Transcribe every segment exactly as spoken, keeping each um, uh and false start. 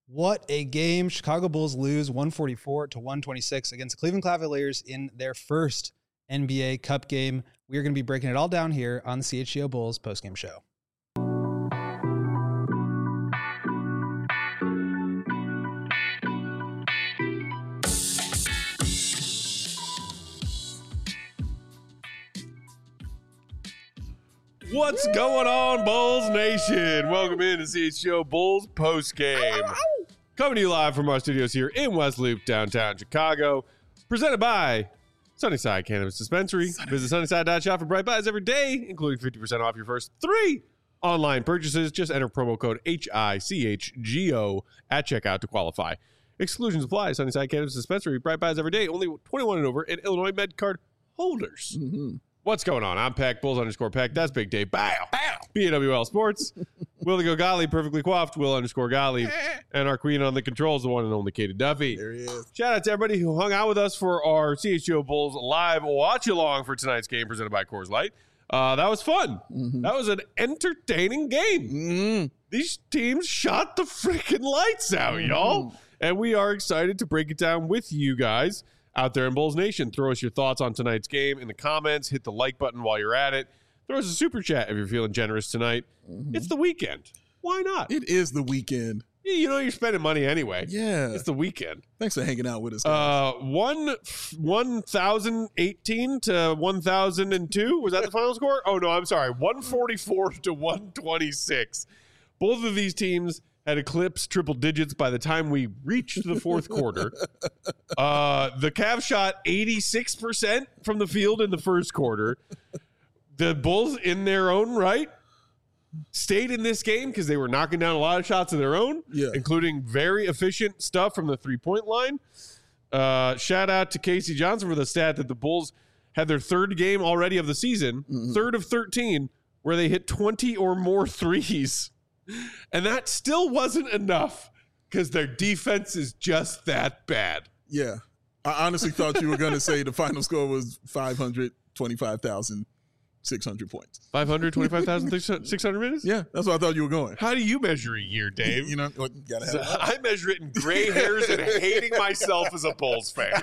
What a game. Chicago Bulls lose one forty-four to one twenty-six against the Cleveland Cavaliers in their first N B A Cup game. We are going to be breaking it all down here on the C H G O Bulls postgame show. What's going on, Bulls Nation? Welcome in to C H G O Bulls postgame. Coming to you live from our studios here in West Loop, downtown Chicago. Presented by Sunnyside Cannabis Dispensary. Sunny. Visit sunnyside dot shop for bright buys every day, including fifty percent off your first three online purchases. Just enter promo code H I C H G O at checkout to qualify. Exclusions apply. Sunnyside Cannabis Dispensary. Bright buys every day. Only twenty-one and over and Illinois Med Card holders. Mm-hmm. What's going on? I'm Peck, Bulls underscore Peck. That's Big Dave. Bow. Bow. B A W L Sports. Willie Go Golly, perfectly coiffed. Will underscore Golly. And our queen on the controls, the one and only Katie Duffy. There he is. Shout out to everybody who hung out with us for our C H G O Bulls live watch-along for tonight's game presented by Coors Light. Uh, that was fun. Mm-hmm. That was an entertaining game. Mm-hmm. These teams shot the freaking lights out, mm-hmm. y'all. And we are excited to break it down with you guys out there in Bulls Nation. Throw us your thoughts on tonight's game in the comments. Hit the like button while you're at it. Throw us a super chat if you're feeling generous tonight. Mm-hmm. It's the weekend. Why not? It is the weekend. You know you're spending money anyway. Yeah. It's the weekend. Thanks for hanging out with us, guys. Uh, one, one thousand eighteen to one thousand two. Was that the final score? Oh, no, I'm sorry. one forty-four to one twenty-six. Both of these teams had eclipsed triple digits by the time we reached the fourth quarter. Uh, the Cavs shot eighty-six percent from the field in the first quarter. The Bulls, in their own right, stayed in this game because they were knocking down a lot of shots of their own, yeah. including very efficient stuff from the three-point line. Uh, shout out to Casey Johnson for the stat that the Bulls had their third game already of the season, mm-hmm. third of thirteen, where they hit twenty or more threes. And that still wasn't enough because their defense is just that bad. Yeah. I honestly thought you were going to say the final score was five hundred twenty-five thousand six hundred points. five hundred twenty-five thousand six hundred minutes? Yeah, that's what I thought you were going. How do you measure a year, Dave? You know, what, you gotta have so I measure it in gray hairs and hating myself as a Bulls fan.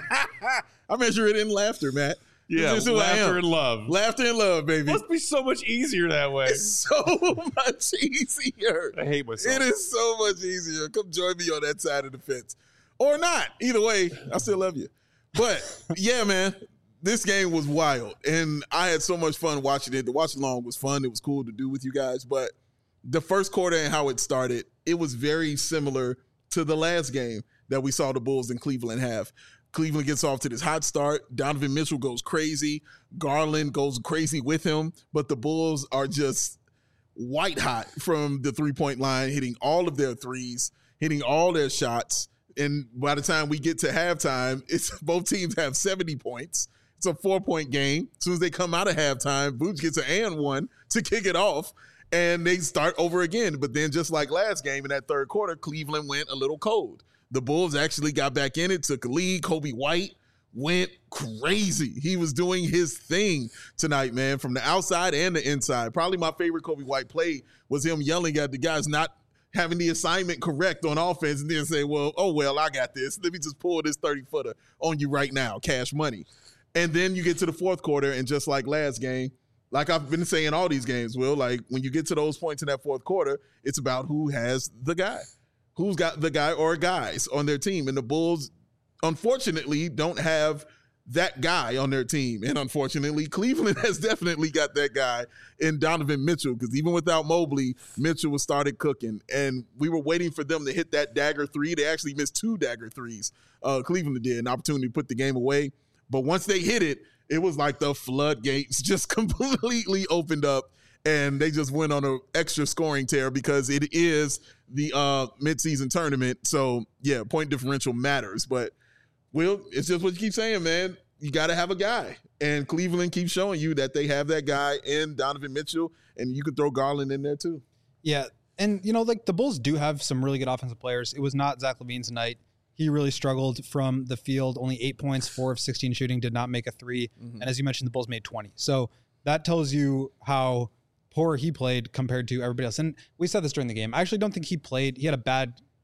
I measure it in laughter, Matt. Yeah, laughter and love. Laughter and love, baby. Must be so much easier that way. It's so much easier. I hate myself. It is so much easier. Come join me on that side of the fence. Or not. Either way, I still love you. But, yeah, man, this game was wild. And I had so much fun watching it. The watch-along was fun. It was cool to do with you guys. But the first quarter and how it started, it was very similar to the last game that we saw the Bulls in Cleveland have. Cleveland gets off to this hot start. Donovan Mitchell goes crazy. Garland goes crazy with him. But the Bulls are just white hot from the three-point line, hitting all of their threes, hitting all their shots. And by the time we get to halftime, it's both teams have seventy points. It's a four-point game. As soon as they come out of halftime, Vooch gets an and one to kick it off, and they start over again. But then just like last game in that third quarter, Cleveland went a little cold. The Bulls actually got back in it, took a lead. Kobe White went crazy. He was doing his thing tonight, man, from the outside and the inside. Probably my favorite Kobe White play was him yelling at the guys not having the assignment correct on offense and then say, well, oh, well, I got this. Let me just pull this thirty-footer on you right now, cash money. And then you get to the fourth quarter, and just like last game, like I've been saying all these games, Will, like when you get to those points in that fourth quarter, it's about who has the guy. Who's got the guy or guys on their team. And the Bulls, unfortunately, don't have that guy on their team. And unfortunately, Cleveland has definitely got that guy in Donovan Mitchell, because even without Mobley, Mitchell was started cooking. And we were waiting for them to hit that dagger three. They actually missed two dagger threes. Uh, Cleveland did, an opportunity to put the game away. But once they hit it, it was like the floodgates just completely opened up. And they just went on an extra scoring tear because it is the uh, midseason tournament. So, yeah, point differential matters. But, Will, it's just what you keep saying, man. You got to have a guy. And Cleveland keeps showing you that they have that guy in Donovan Mitchell, and you could throw Garland in there too. Yeah, and, you know, like the Bulls do have some really good offensive players. It was not Zach LaVine tonight. He really struggled from the field. Only eight points, four of sixteen shooting, did not make a three. Mm-hmm. And as you mentioned, the Bulls made twenty. So that tells you how poor he played compared to everybody else. And we said this during the game. I actually don't think he played. He had a bad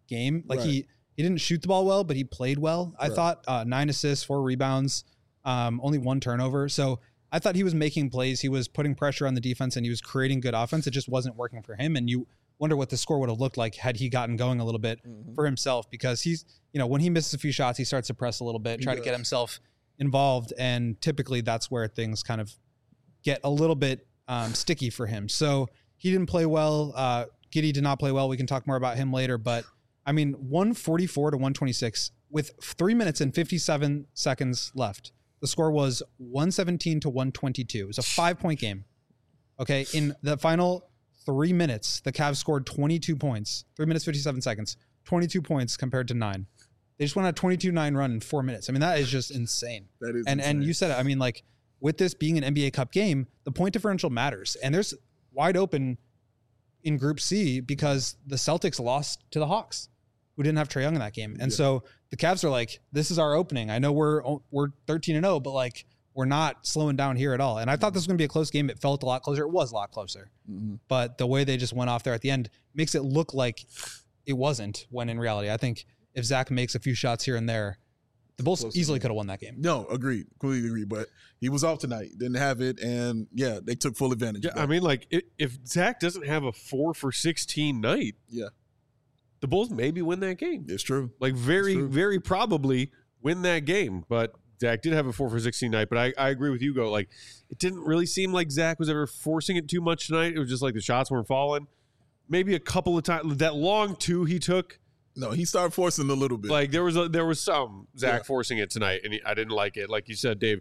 game. Like Right. he he didn't shoot the ball well, but he played well. I Right. thought uh, nine assists, four rebounds, um, only one turnover. So I thought he was making plays. He was putting pressure on the defense, and he was creating good offense. It just wasn't working for him. And you wonder what the score would have looked like had he gotten going a little bit Mhm. for himself, because he's, you know, when he misses a few shots, he starts to press a little bit, He try to does. get himself involved. And typically that's where things kind of get a little bit um, sticky for him. So he didn't play well. Uh, Giddey did not play well. We can talk more about him later. But I mean, one forty-four to one twenty-six with three minutes and fifty-seven seconds left. The score was one seventeen to one twenty-two. It was a five point game. Okay. In the final three minutes, the Cavs scored twenty-two points, three minutes, fifty-seven seconds, twenty-two points compared to nine. They just went on a twenty-two nine run in four minutes. I mean, that is just insane. That is And insane. and you said it. I mean, like with this being an N B A Cup game, the point differential matters. And there's wide open in Group C because the Celtics lost to the Hawks, who didn't have Trae Young in that game. And Yeah. so the Cavs are like, this is our opening. I know we're we're thirteen and oh, but like we're not slowing down here at all. And I thought this was going to be a close game. It felt a lot closer. It was a lot closer. Mhm. But the way they just went off there at the end makes it look like it wasn't, when in reality, I think if Zach makes a few shots here and there, the Bulls Close easily game. could have won that game. No, agreed. Completely agree. But he was off tonight. Didn't have it. And yeah, they took full advantage Yeah, of that. I mean, like i if Zach doesn't have a four for sixteen night, Yeah. the Bulls maybe win that game. It's true. Like very, true. very probably win that game. But Zach did have a four for sixteen night. But I, I agree with you, Go. Like it didn't really seem like Zach was ever forcing it too much tonight. It was just like the shots weren't falling. Maybe a couple of times that long two he took. No, he started forcing a little bit. Like there was a, there was some Zach Yeah. forcing it tonight, and he, I didn't like it. Like you said, Dave,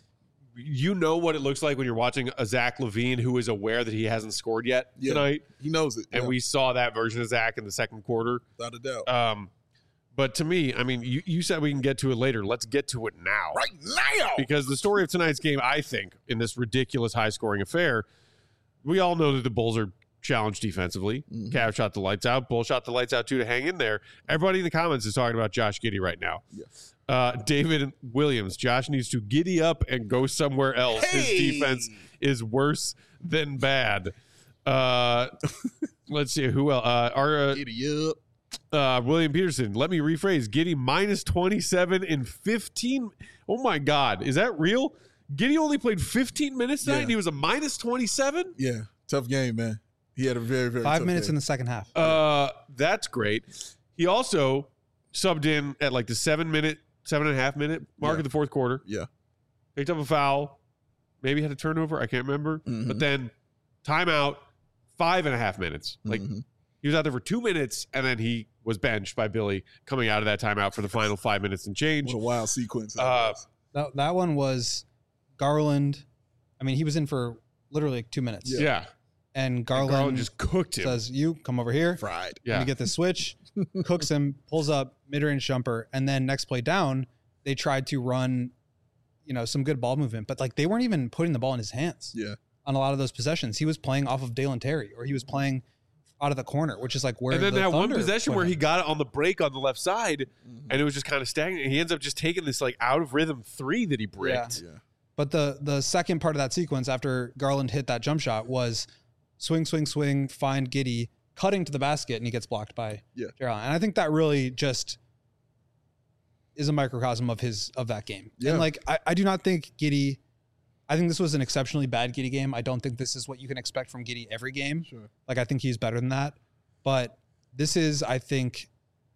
you know what it looks like when you're watching a Zach LaVine who is aware that he hasn't scored yet Yeah. tonight, he knows it. and yeah, we saw that version of Zach in the second quarter. without a doubt. Um, but to me, I mean, you, you said we can get to it later. Let's get to it now, right now. because the story of tonight's game, I think, in this ridiculous high-scoring affair, we all know that the Bulls are challenged defensively. Mhm. Cavs shot the lights out. Bulls shot the lights out too to hang in there. Everybody in the comments is talking about Josh Giddey right now. Yeah. Uh, David Williams, Josh needs to giddy up and go somewhere else. Hey! His defense is worse than bad. Uh, let's see who else. Uh, our uh, Giddy up. uh, William Peterson. Let me rephrase. Giddey minus twenty-seven in fifteen. Oh my God, is that real? Giddey only played fifteen minutes tonight, Yeah. and he was a minus twenty-seven. Yeah, tough game, man. He had a very, very Five tough minutes game. in the second half. Uh, that's great. He also subbed in at like the seven minute, seven and a half minute mark Yeah. of the fourth quarter. Yeah. Picked up a foul, maybe had a turnover. I can't remember. Mhm. But then timeout, five and a half minutes. Like Mhm. he was out there for two minutes, and then he was benched by Billy coming out of that timeout for the final five minutes and change. What a wild sequence. that Uh, was. That, that one was Garland. I mean, he was in for literally like two minutes. Yeah. yeah, And And Garland, Garland just cooked him. says, you come over here. Fried. yeah, Let me get the switch, cooks him, pulls up, mid-range jumper, and then next play down, they tried to run, you know, some good ball movement, but like they weren't even putting the ball in his hands Yeah. on a lot of those possessions. He was playing off of Dalen Terry, or he was playing out of the corner, which is like where. and then the that one Thunder possession put where him. he got it on the break on the left side, Mhm. and it was just kind of stagnant. He ends up just taking this like out of rhythm three that he bricked. Yeah. But the the second part of that sequence after Garland hit that jump shot was swing, swing, swing, find Giddey, cutting to the basket, and he gets blocked by Yeah. Jarrell. And I think that really just is a microcosm of his of that game. Yeah. And like I, I do not think Giddey. I think this was an exceptionally bad Giddey game. I don't think this is what you can expect from Giddey every game. Sure. Like I think he's better than that. But this is, I think,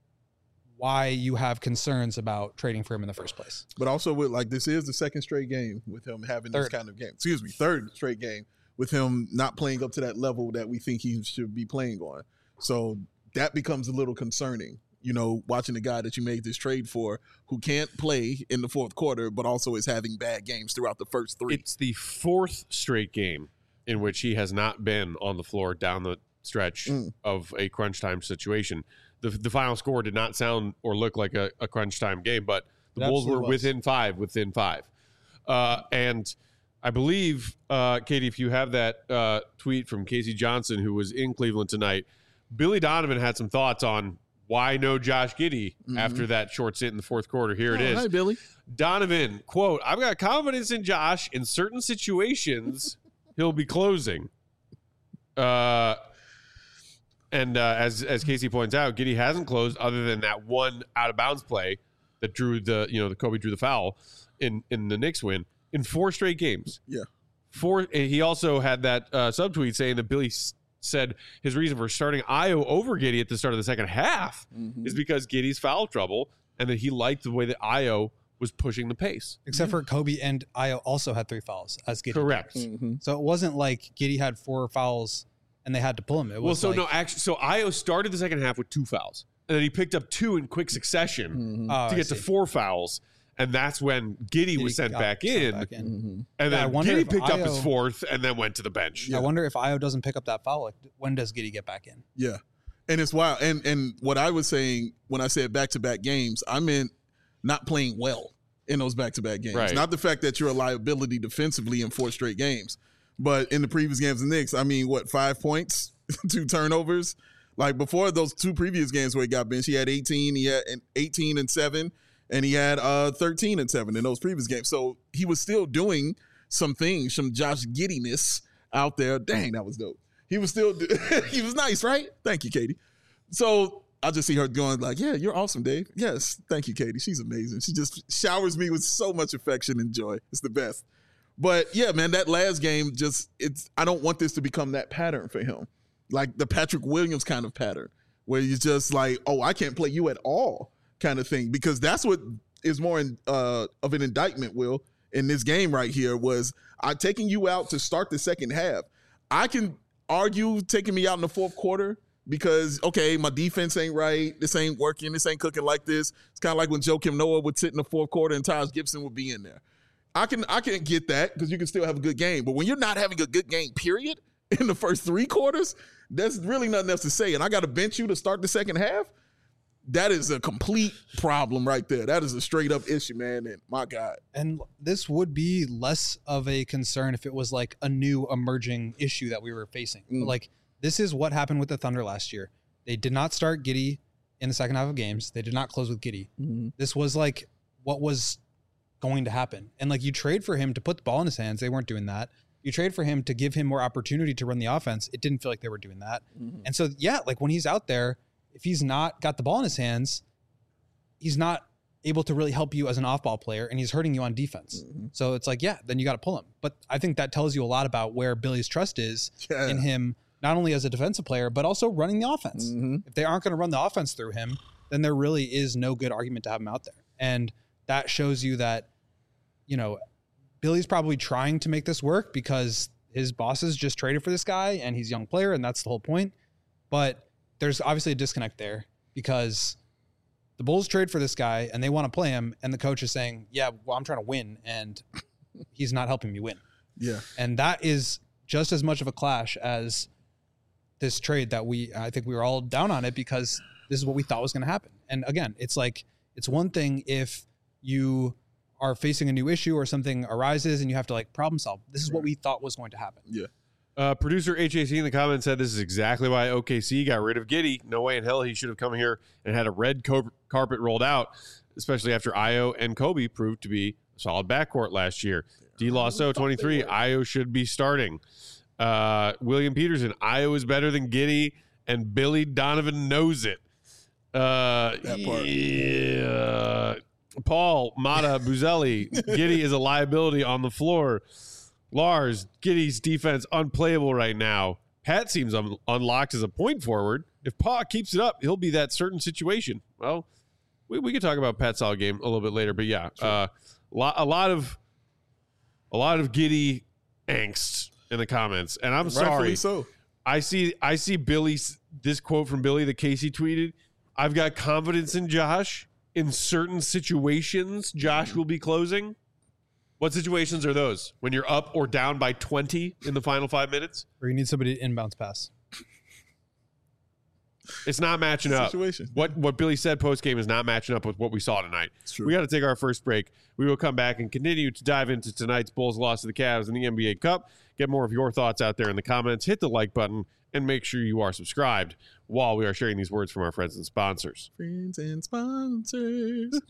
why you have concerns about trading for him in the first place. But also with like this is the second straight game with him having this Third. kind of game. Excuse me, third straight game with him not playing up to that level that we think he should be playing on. So that becomes a little concerning. You know, watching the guy that you made this trade for who can't play in the fourth quarter, but also is having bad games throughout the first three. It's the fourth straight game in which he has not been on the floor down the stretch Mm. of a crunch time situation. The, the final score did not sound or look like a, a crunch time game, but the It Bulls were absolutely was. within five, within five. Uh, and I believe, uh, Katie, if you have that uh, tweet from Casey Johnson, who was in Cleveland tonight, Billy Donovan had some thoughts on why no Josh Giddey Mhm. after that short stint in the fourth quarter. Here it Oh, is. Hi, Billy. Donovan, quote, I've got confidence in Josh. In certain situations, he'll be closing. Uh, And uh, as as Casey points out, Giddey hasn't closed other than that one out of bounds play that drew the you know the Kobe drew the foul in in the Knicks win in four straight games. Yeah. Four. And he also had that uh, subtweet saying that Billy s- said his reason for starting Ayo over Giddey at the start of the second half Mm-hmm. is because Giddey's foul trouble and that he liked the way that Ayo was pushing the pace. Except for Kobe and Ayo also had three fouls as Giddey. Correct. Mm-hmm. So it wasn't like Giddey had four fouls and they had to pull him. It was Well, so like, no, actually, so Ayo started the second half with two fouls, and then he picked up two in quick succession Mm-hmm. Oh, to I get to see. four fouls, and that's when Giddey, was Giddey sent got back sent in, back in. Mm-hmm. and Yeah, I then wonder Giddey if picked up his Ayo- fourth, and then went to the bench. Yeah. I wonder if Ayo doesn't pick up that foul. Like, when does Giddey get back in? Yeah. And it's wild. And and what I was saying when I said back to back games, I meant not playing well in those back to back games. Right. Not the fact that you're a liability defensively in four straight games. But in the previous games of the Knicks, I mean, what, five points, two turnovers? Like before those two previous games where he got benched, he had eighteen, he had eighteen and seven, and he had uh, thirteen and seven in those previous games. So he was still doing some things, some Josh Giddiness out there. Dang, that was dope. He was still, he was nice, right? Thank you, Katie. So I just see her going like, yeah, you're awesome, Dave. Yes, thank you, Katie. She's amazing. She just showers me with so much affection and joy. It's the best. But yeah, man, that last game just, it's, I don't want this to become that pattern for him. Like the Patrick Williams kind of pattern where you're just like, oh, I can't play you at all kind of thing. Because that's what is more in, uh, of an indictment, Will, in this game right here was I taking you out to start the second half. I can argue taking me out in the fourth quarter because, okay, my defense ain't right. This ain't working. This ain't cooking like this. It's kind of like when Joakim Noah would sit in the fourth quarter and Taj Gibson would be in there. I can I can get that because you can still have a good game. But when you're not having a good game, period, in the first three quarters, there's really nothing else to say. And I got to bench you to start the second half. That is a complete problem right there. That is a straight up issue, man. And my God. And this would be less of a concern if it was like a new emerging issue that we were facing. Mm. But like, this is what happened with the Thunder last year. They did not start Giddey in the second half of games. They did not close with Giddey. Mm-hmm. This was like what was going to happen. And like, you trade for him to put the ball in his hands. They weren't doing that. You trade for him to give him more opportunity to run the offense. It didn't feel like they were doing that. Mm-hmm. And so, yeah, like when he's out there, if he's not got the ball in his hands, he's not able to really help you as an off-ball player, and he's hurting you on defense. Mm-hmm. So it's like, yeah, then you got to pull him. But I think that tells you a lot about where Billy's trust is Yeah. in him, not only as a defensive player, but also running the offense. Mm-hmm. If they aren't going to run the offense through him, then there really is no good argument to have him out there. And that shows you that, you know, Billy's probably trying to make this work because his bosses just traded for this guy and he's a young player, and that's the whole point. But there's obviously a disconnect there because the Bulls trade for this guy and they want to play him, and the coach is saying, yeah, well, I'm trying to win, and he's not helping me win. Yeah. And that is just as much of a clash as this trade that we, I think we were all down on it because this is what we thought was going to happen. And again, it's like, it's one thing if you are facing a new issue or something arises and you have to like problem solve. This is what we thought was going to happen. Yeah. Uh, producer H A C in the comments said this is exactly why O K C got rid of Giddey. No way in hell he should have come here and had a red co- carpet rolled out, especially after Ayo and Kobe proved to be a solid backcourt last year. D. Lasso twenty-three, Ayo should be starting. Uh, William Peterson, Ayo is better than Giddey, and Billy Donovan knows it. Uh, That part. Yeah. Paul Mata Buzelli, Giddey is a liability on the floor. Lars, Giddey's defense unplayable right now. Pat seems un- unlocked as a point forward. If Pa keeps it up, he'll be that certain situation. Well, we, we could talk about Pat's solid game a little bit later, but yeah, Sure. uh, lot, a lot of a lot of Giddey angst in the comments, and I'm Rightfully sorry. so. I see I see Billy's this quote from Billy that Casey tweeted. I've got confidence in Josh. In certain situations, Josh will be closing. What situations are those? When you're up or down by twenty in the final five minutes? Or you need somebody to inbounds pass. It's not matching up. Situation. What what Billy said post game is not matching up with what we saw tonight. It's true. We got to take our first break. We will come back and continue to dive into tonight's Bulls loss to the Cavs in the N B A Cup. Get more of your thoughts out there in the comments. Hit the like button and make sure you are subscribed while we are sharing these words from our friends and sponsors. Friends and sponsors.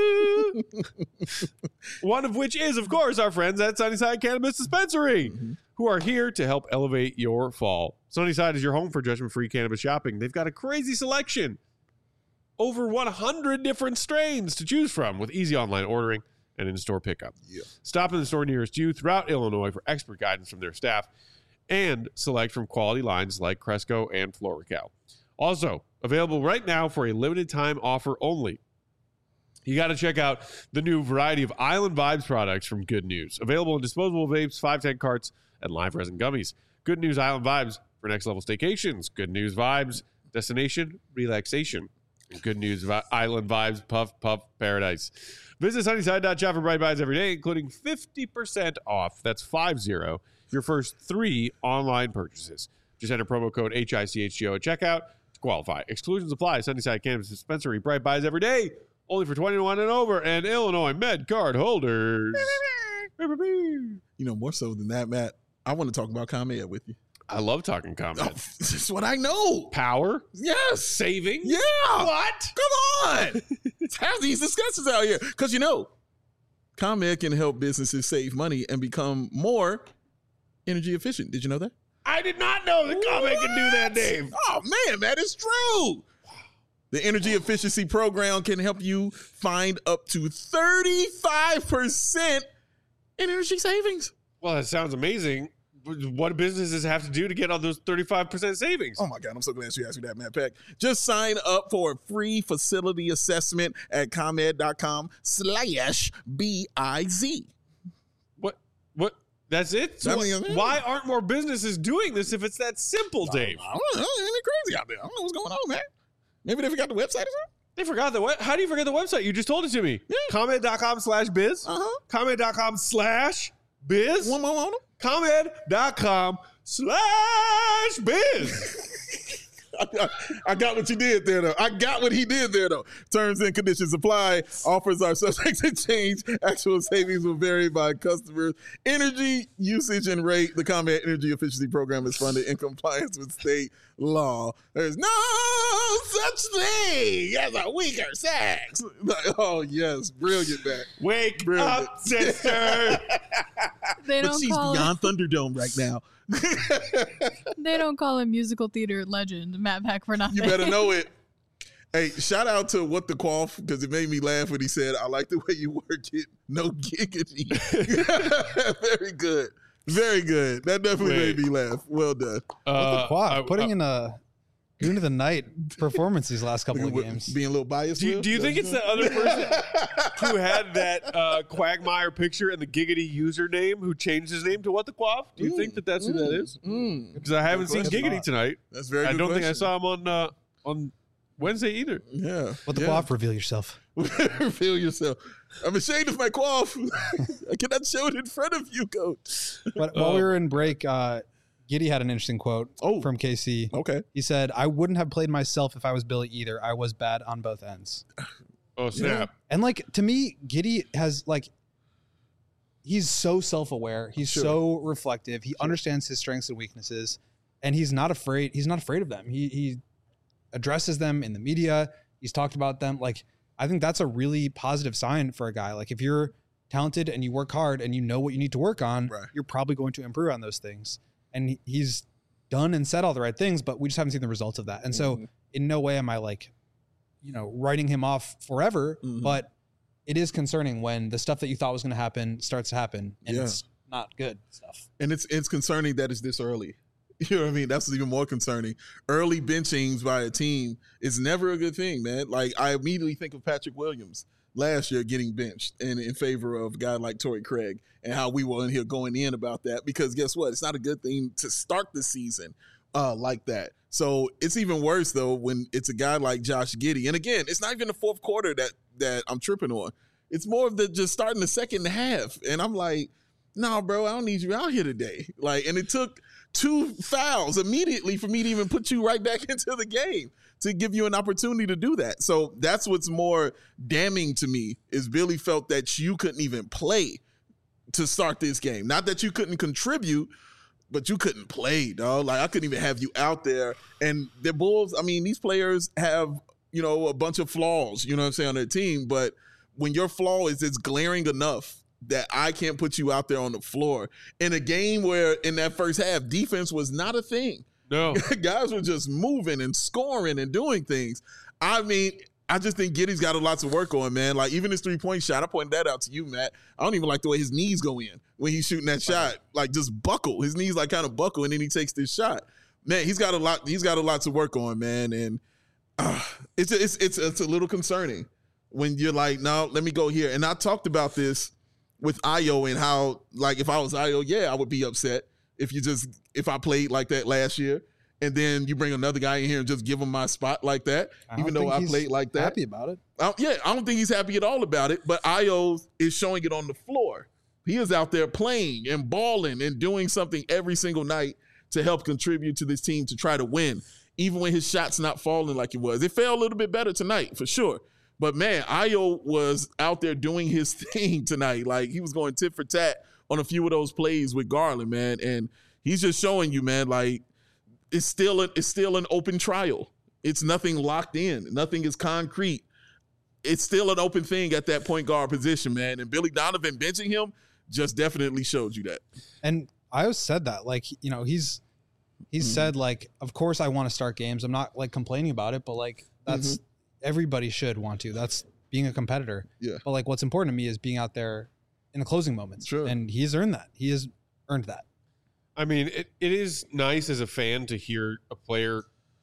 One of which is, of course, our friends at Sunnyside Cannabis Dispensary. Mm-hmm. who are here to help elevate your fall. Sunnyside is your home for judgment-free cannabis shopping. They've got a crazy selection. Over one hundred different strains to choose from with easy online ordering and in-store pickup. Yeah. Stop in the store nearest you throughout Illinois for expert guidance from their staff and select from quality lines like Cresco and Florical. Also, available right now for a limited time offer only. You got to check out the new variety of Island Vibes products from Good News. Available in disposable vapes, five ten carts, and live resin gummies. Good News Island Vibes for next level staycations. Good News Vibes, destination, relaxation. And Good News Vi- Island Vibes, puff, puff, paradise. Visit Sunnyside dot shop for bright buys every day, including fifty percent off. That's five zero. Your first three online purchases. Just enter promo code H I C H G O at checkout to qualify. Exclusions apply. Sunnyside Cannabis Dispensary, bright buys every day. Only for twenty-one and over, and Illinois Med card holders. You know, more so than that, Matt, I want to talk about ComEd with you. I love talking ComEd. Oh, that's what I know. Power? Yes. Savings? Yeah. What? Come on. Let's have these discussions out here. Because, you know, ComEd can help businesses save money and become more energy efficient. Did you know that? I did not know that ComEd can do that, Dave. Oh, man, that is true. The Energy Efficiency Program can help you find up to thirty-five percent in energy savings. Well, that sounds amazing. What do businesses have to do to get all those thirty-five percent savings? Oh, my God. I'm so glad you asked me that, Matt Peck. Just sign up for a free facility assessment at ComEd.com slash B-I-Z. What? What? That's it? So I mean, what- why aren't more businesses doing this if it's that simple, Dave? I don't know. Ain't it crazy out there? I don't know what's going on, man. Maybe they forgot the website or something? They forgot the what? How do you forget the website? You just told it to me. Yeah. ComEd.com slash biz. Uh-huh. ComEd.com slash biz. One more on them? ComEd.com slash biz. I got, I got what you did there, though. I got what he did there, though. Terms and conditions apply. Offers are subject to change. Actual savings will vary by customer energy usage and rate. The ComEd Energy Efficiency Program is funded in compliance with state law. There's no such thing as a weaker sex. Like, oh, yes. Brilliant, man. Wake Brilliant. up, sister. They But don't she's call beyond Thunderdome right now. they don't call him musical theater legend Matt Peck for nothing. You better know it. Hey, shout out to What the Quaff, because it made me laugh when he said, I like the way you work it. No giggity. Very good. Very good. That definitely Wait. made me laugh. Well done. Uh, Quaff, I- putting I- in a Goon of the Night performance these last couple of games. Being a little biased. Do you, Will? do you think it's the other person who had that uh, Quagmire picture and the Giggity username who changed his name to What the Quaff? Do you think that that's who that is? Mm, Because I haven't seen Good Giggity question. tonight. that's very I good don't think I question. saw him on uh, on Wednesday either. Yeah. What the yeah. Quaff, reveal yourself. Feel yourself. I'm ashamed of my quaff. I cannot show it in front of you, coach. But while we were in break, uh, Giddy had an interesting quote Oh. from K C. Okay. He said, I wouldn't have played myself if I was Billy either. I was bad on both ends. Oh, snap. And like, to me, Giddy has like, he's so self-aware. He's Sure. so reflective. He understands his strengths and weaknesses, and he's not afraid. He's not afraid of them. He, he addresses them in the media. He's talked about them. Like, I think that's a really positive sign for a guy. Like, if you're talented and you work hard and you know what you need to work on, Right. you're probably going to improve on those things. And he- he's done and said all the right things, but we just haven't seen the results of that. And so Mhm. in no way am I like, you know, writing him off forever, Mhm. but it is concerning when the stuff that you thought was going to happen starts to happen and Yeah. it's not good stuff. And it's it's concerning that it's this early. You know what I mean? That's even more concerning. Early benchings by a team is never a good thing, man. Like, I immediately think of Patrick Williams last year getting benched and in favor of a guy like Torrey Craig and how we were in here going in about that, because guess what? It's not a good thing to start the season uh, like that. So it's even worse, though, when it's a guy like Josh Giddey. And again, it's not even the fourth quarter that that I'm tripping on. It's more of the just starting the second half. And I'm like, no, bro, I don't need you out here today. Like, and it took two fouls immediately for me to even put you right back into the game to give you an opportunity to do that. So that's what's more damning to me is Billy felt that you couldn't even play to start this game. Not that you couldn't contribute, but you couldn't play, dog. Like, I couldn't even have you out there. And the Bulls, I mean, these players have, you know, a bunch of flaws, you know what I'm saying, on their team. But when your flaw is it's glaring enough that I can't put you out there on the floor in a game where in that first half, defense was not a thing. No. Guys were just moving and scoring and doing things. I mean, I just think Giddey's got a lot to work on, man. Like, even his three-point shot, I pointed that out to you, Matt. I don't even like the way his knees go in when he's shooting that shot. Like, just buckle. His knees, like, kind of buckle, and then he takes this shot. Man, he's got a lot He's got a lot to work on, man. And uh, it's, it's, it's, it's a little concerning when you're like, no, let me go here. And I talked about this with Ayo and how, like, if I was Ayo, yeah, I would be upset if you just if I played like that last year. And then you bring another guy in here and just give him my spot like that, I even though I played like that. Happy about it? I, yeah, I don't think he's happy at all about it. But Ayo is showing it on the floor. He is out there playing and balling and doing something every single night to help contribute to this team to try to win, even when his shot's not falling like it was. It fell a little bit better tonight for sure. But man, Ayo was out there doing his thing tonight. Like, he was going tit for tat on a few of those plays with Garland, man, and he's just showing you, man, like. It's still a, it's still an open trial. It's nothing locked in. Nothing is concrete. It's still an open thing at that point guard position, man. And Billy Donovan benching him just definitely showed you that. And I always said that, like, you know, he's he's mm-hmm. said, like, of course I want to start games. I'm not, like, complaining about it, but, like, that's mm-hmm. everybody should want to. That's being a competitor. Yeah. But, like, what's important to me is being out there in the closing moments. Sure. And he's earned that. He has earned that. I mean, it, it is nice as a fan to hear a player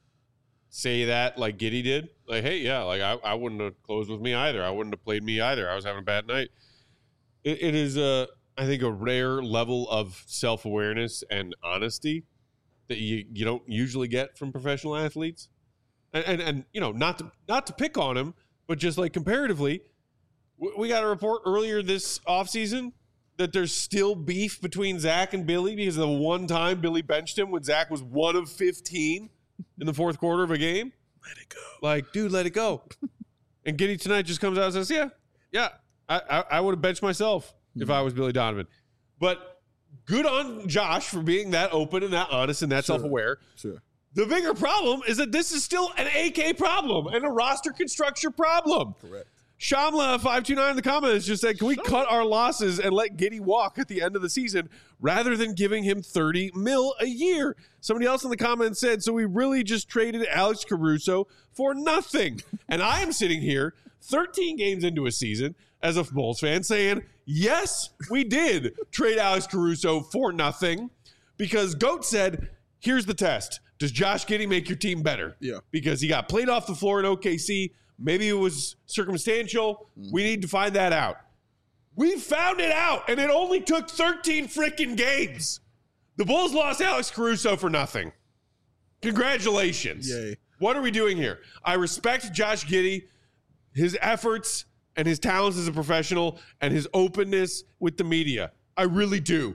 say that like Giddey did. Like, hey, yeah, like I, I wouldn't have closed with me either. I wouldn't have played me either. I was having a bad night. It, it is, a, I think, a rare level of self-awareness and honesty that you, you don't usually get from professional athletes. And, and, and you know, not to, not to pick on him, but just like comparatively, we, we got a report earlier this offseason that there's still beef between Zach and Billy because of the one time Billy benched him when Zach was one of fifteen in the fourth quarter of a game. Let it go. Like, dude, let it go. And Giddey tonight just comes out and says, yeah, yeah, I, I, I would have benched myself mm-hmm. if I was Billy Donovan. But good on Josh for being that open and that honest and that sure. self-aware. Sure. The bigger problem is that this is still an A K problem and a roster construction problem. Correct. Shamla five two nine in the comments just said, can we cut our losses and let Giddey walk at the end of the season rather than giving him thirty mil a year? Somebody else in the comments said, so we really just traded Alex Caruso for nothing. And I am sitting here thirteen games into a season as a Bulls fan saying, yes, we did trade Alex Caruso for nothing because GOAT said, here's the test. Does Josh Giddey make your team better? Yeah. Because he got played off the floor in O K C. Maybe it was circumstantial. We need to find that out. We found it out, and it only took thirteen freaking games. The Bulls lost Alex Caruso for nothing. Congratulations. Yay. What are we doing here? I respect Josh Giddey, his efforts and his talents as a professional and his openness with the media. I really do.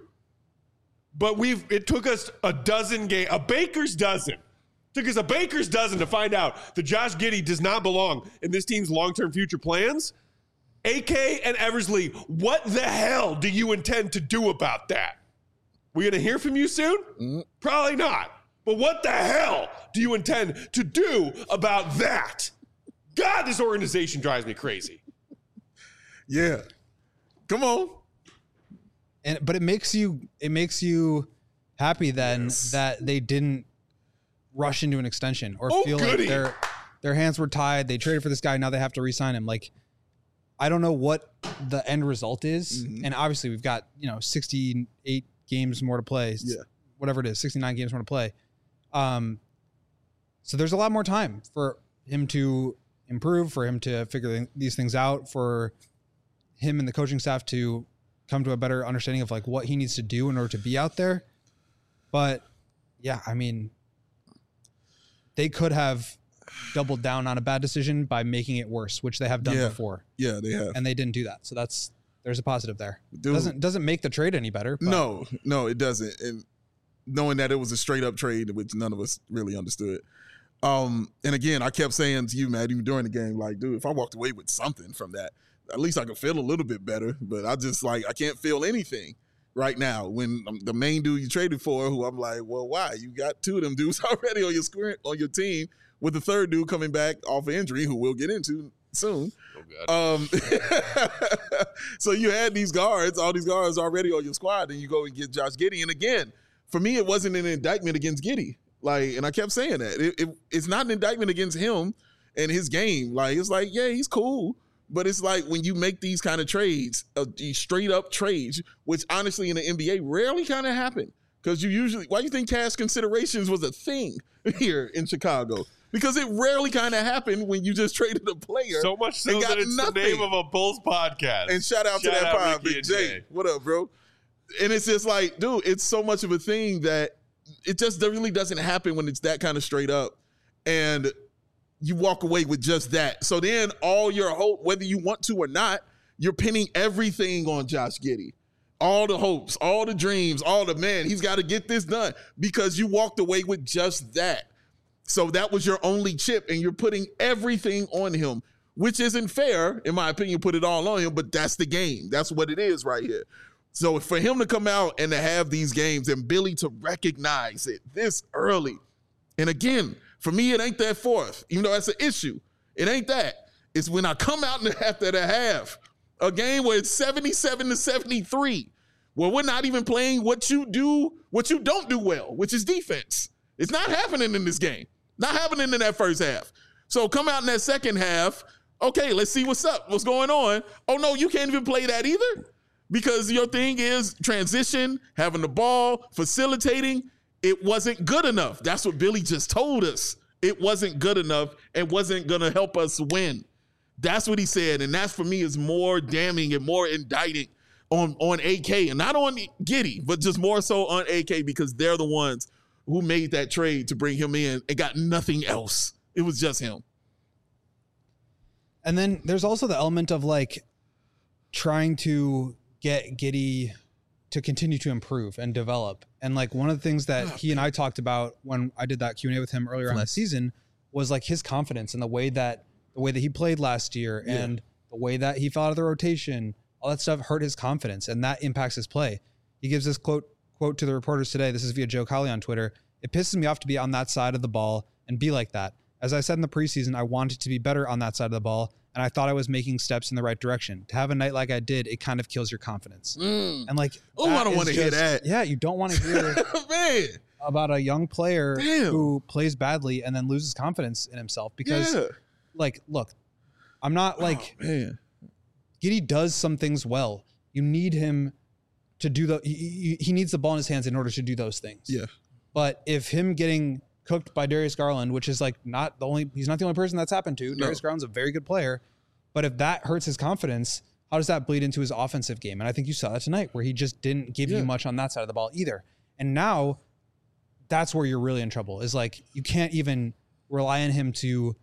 But we've it took us a dozen games, a baker's dozen. Took us a baker's dozen to find out that Josh Giddey does not belong in this team's long-term future plans. A K and Eversley, what the hell do you intend to do about that? We going to hear from you soon? Mm-hmm. Probably not. But what the hell do you intend to do about that? God, this organization drives me crazy. Yeah. Come on. And but it makes you it makes you happy then yes. that they didn't rush into an extension or oh, feel goody. like their their hands were tied. They traded for this guy. Now they have to re-sign him. Like, I don't know what the end result is. Mm-hmm. And obviously we've got, you know, sixty-eight games more to play. Yeah. Whatever it is, sixty-nine games more to play. Um, so there's a lot more time for him to improve, for him to figure these things out, for him and the coaching staff to come to a better understanding of like what he needs to do in order to be out there. But yeah, I mean, they could have doubled down on a bad decision by making it worse, which they have done yeah. before. Yeah, they have. And they didn't do that. So that's, there's a positive there. Dude, doesn't, doesn't make the trade any better. But. No, no, it doesn't. And knowing that it was a straight up trade, which none of us really understood. Um, and again, I kept saying to you, Matt, even during the game, like, dude, if I walked away with something from that, at least I could feel a little bit better. But I just like, I can't feel anything right now when um, the main dude you traded for, who I'm like, well, why? You got two of them dudes already on your square, on your team, with the third dude coming back off of injury, who we'll get into soon. Oh, um, so you had these guards, all these guards already on your squad, and you go and get Josh Giddey. And again, for me, it wasn't an indictment against Giddey. Like, and I kept saying that. It, it, it's not an indictment against him and his game. Like, it's like, yeah, he's cool. But it's like when you make these kind of trades, uh, these straight up trades, which honestly in the N B A rarely kind of happen. Because you usually, why do you think cash considerations was a thing here in Chicago? Because it rarely kind of happened when you just traded a player. So much so and got that it's nothing. the name of a Bulls podcast. And shout out Shout to that out pod, Ricky Big and J. Jay. What up, bro? And it's just like, dude, it's so much of a thing that it just really doesn't happen when it's that kind of straight up. And you walk away with just that. So then all your hope, whether you want to or not, you're pinning everything on Josh Giddey. All the hopes, all the dreams, all the, man, he's got to get this done because you walked away with just that. So that was your only chip, and you're putting everything on him, which isn't fair, in my opinion, put it all on him, but that's the game. That's what it is right here. So for him to come out and to have these games and Billy to recognize it this early, and again, for me, it ain't that fourth, even though that's an issue. It ain't that. It's when I come out in the after the half, a game where it's seventy-seven to seventy-three, where we're not even playing what you do, what you don't do well, which is defense. It's not happening in this game. Not happening in that first half. So come out in that second half, okay, let's see what's up, what's going on. Oh, no, you can't even play that either because your thing is transition, having the ball, facilitating. It wasn't good enough. That's what Billy just told us. It wasn't good enough and wasn't going to help us win. That's what he said, and that for me is more damning and more indicting on, on A K, and not on Giddey, but just more so on A K because they're the ones who made that trade to bring him in and got nothing else. It was just him. And then there's also the element of like trying to get Giddey to continue to improve and develop. And like one of the things that he and I talked about when I did that Q and A with him earlier on the season was like his confidence and the way that the way that he played last year yeah. and the way that he fell out of the rotation, all that stuff hurt his confidence and that impacts his play. He gives this quote quote to the reporters today. This is via Joe Colley on Twitter. It pisses me off to be on that side of the ball and be like that. As I said in the preseason, I wanted to be better on that side of the ball, and I thought I was making steps in the right direction. To have a night like I did, it kind of kills your confidence. Mm. And like, oh, I don't want to hear that. Yeah, you don't want to hear Man. about a young player Damn. who plays badly and then loses confidence in himself because, yeah. like, look, I'm not like, oh, man. Giddey does some things well. You need him to do the, he, he needs the ball in his hands in order to do those things. Yeah. But if him getting cooked by Darius Garland, which is like not the only, he's not the only person that's happened to. No. Darius Garland's a very good player. But if that hurts his confidence, how does that bleed into his offensive game? And I think you saw that tonight where he just didn't give yeah. you much on that side of the ball either. And now that's where you're really in trouble is like, you can't even rely on him to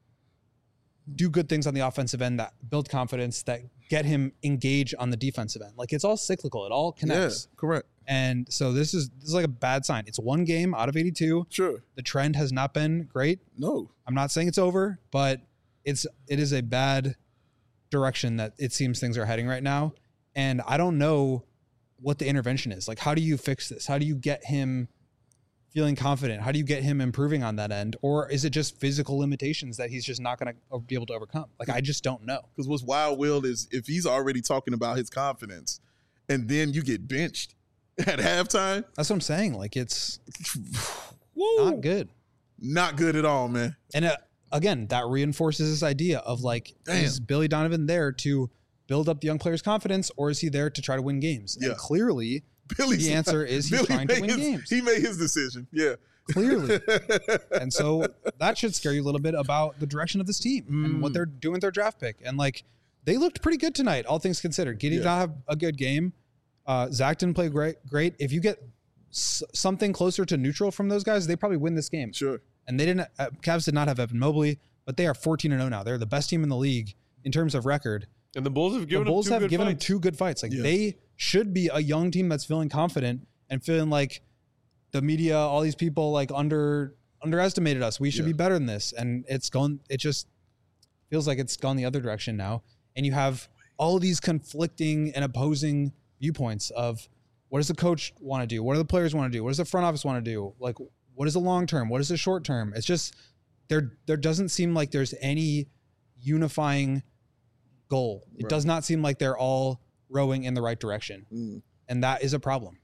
do good things on the offensive end that build confidence, that get him engaged on the defensive end. Like it's all cyclical. It all connects. Yeah, correct. And so this is this is like a bad sign. It's one game out of eighty-two. Sure. The trend has not been great. No. I'm not saying it's over, but it's it is a bad direction that it seems things are heading right now. And I don't know what the intervention is. Like, how do you fix this? How do you get him feeling confident? How do you get him improving on that end? Or is it just physical limitations that he's just not going to be able to overcome? Like, I just don't know. Because what's wild, Will, is if he's already talking about his confidence and then you get benched at halftime. That's what I'm saying. Like, it's Woo. not good. Not good at all, man. And uh, again, that reinforces this idea of like, Damn. is Billy Donovan there to build up the young player's confidence, or is he there to try to win games? Yeah. And clearly, Billy's, the answer is he's Billy trying to made win his, games. He made his decision. Yeah. Clearly. And so that should scare you a little bit about the direction of this team mm. and what they're doing with their draft pick. And like, they looked pretty good tonight, all things considered. Giddey yeah. did not have a good game. Uh, Zach didn't play great. Great. If you get s- something closer to neutral from those guys, they probably win this game. Sure. And they didn't. Uh, Cavs did not have Evan Mobley, but they are fourteen and oh now. They're the best team in the league in terms of record. And the Bulls have given the Bulls them two have good given fights. them two good fights. Like yeah. they should be a young team that's feeling confident and feeling like the media, all these people like under underestimated us. We should yeah. be better than this. And it's gone. It just feels like it's gone the other direction now. And you have all these conflicting and opposing viewpoints of what does the coach want to do? What do the players want to do? What does the front office want to do? Like, what is the long term? What is the short term? It's just there. There doesn't seem like there's any unifying goal. It Right. does not seem like they're all rowing in the right direction. Mm. And that is a problem.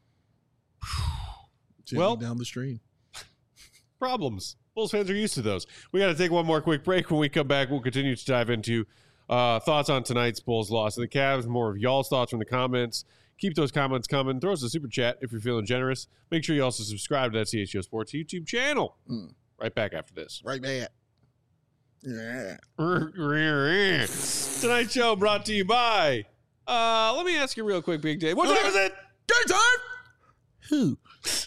Gently Well- down the stream. Problems. Bulls fans are used to those. We got to take one more quick break. When we come back, we'll continue to dive into uh, thoughts on tonight's Bulls loss to the Cavs, more of y'all's thoughts from the comments. Keep those comments coming. Throw us a super chat if you're feeling generous. Make sure you also subscribe to that C H G O Sports YouTube channel. Mm. Right back after this. Right back. Yeah. Tonight's show brought to you by. Uh, let me ask you real quick, Big Dave. What time is it? Game time! Who?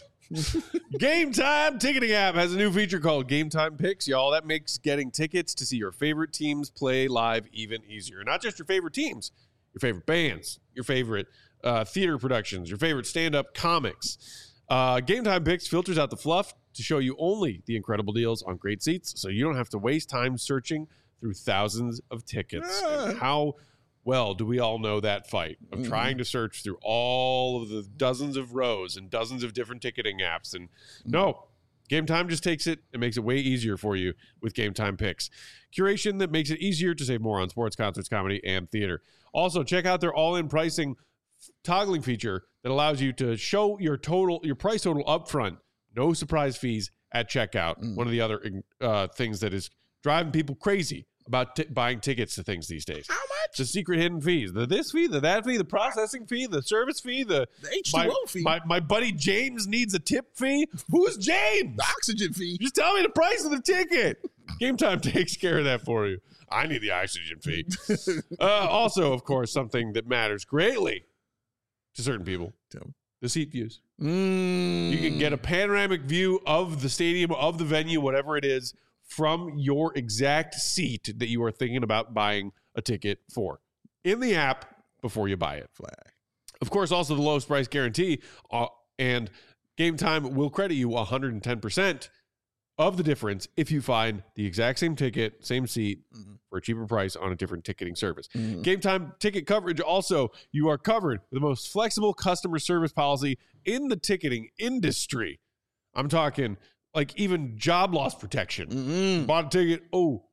Game Time ticketing app has a new feature called Game Time Picks, y'all. That makes getting tickets to see your favorite teams play live even easier. Not just your favorite teams, your favorite bands, your favorite uh, theater productions, your favorite stand-up comics. Uh, Game Time Picks filters out the fluff to show you only the incredible deals on great seats, so you don't have to waste time searching through thousands of tickets. And how well do we all know that fight of Mhm. trying to search through all of the dozens of rows and dozens of different ticketing apps? And no, Game Time just takes it and makes it way easier for you with Game Time Picks. Curation that makes it easier to save more on sports, concerts, comedy, and theater. Also, check out their all-in pricing toggling feature that allows you to show your total, your price total up front. No surprise fees at checkout. Mm. One of the other uh, things that is driving people crazy about t- buying tickets to things these days. How much? The secret hidden fees. The this fee, the that fee, the processing fee, the service fee, the The H two my, O fee. my, my buddy James needs a tip fee. Who's James? The oxygen fee. Just tell me the price of the ticket. Game Time takes care of that for you. I need the oxygen fee. uh, also, of course, something that matters greatly to certain people. Tell me. The seat views. Mm. You can get a panoramic view of the stadium, of the venue, whatever it is, from your exact seat that you are thinking about buying a ticket for in the app before you buy it. Flag. Of course, also the lowest price guarantee, uh, and Game Time will credit you one hundred ten percent of the difference if you find the exact same ticket, same seat, Mhm. for a cheaper price on a different ticketing service. Mhm. Game Time ticket coverage also, you are covered with the most flexible customer service policy in the ticketing industry. I'm talking like even job loss protection. Mm-mm. Bought a ticket, oh,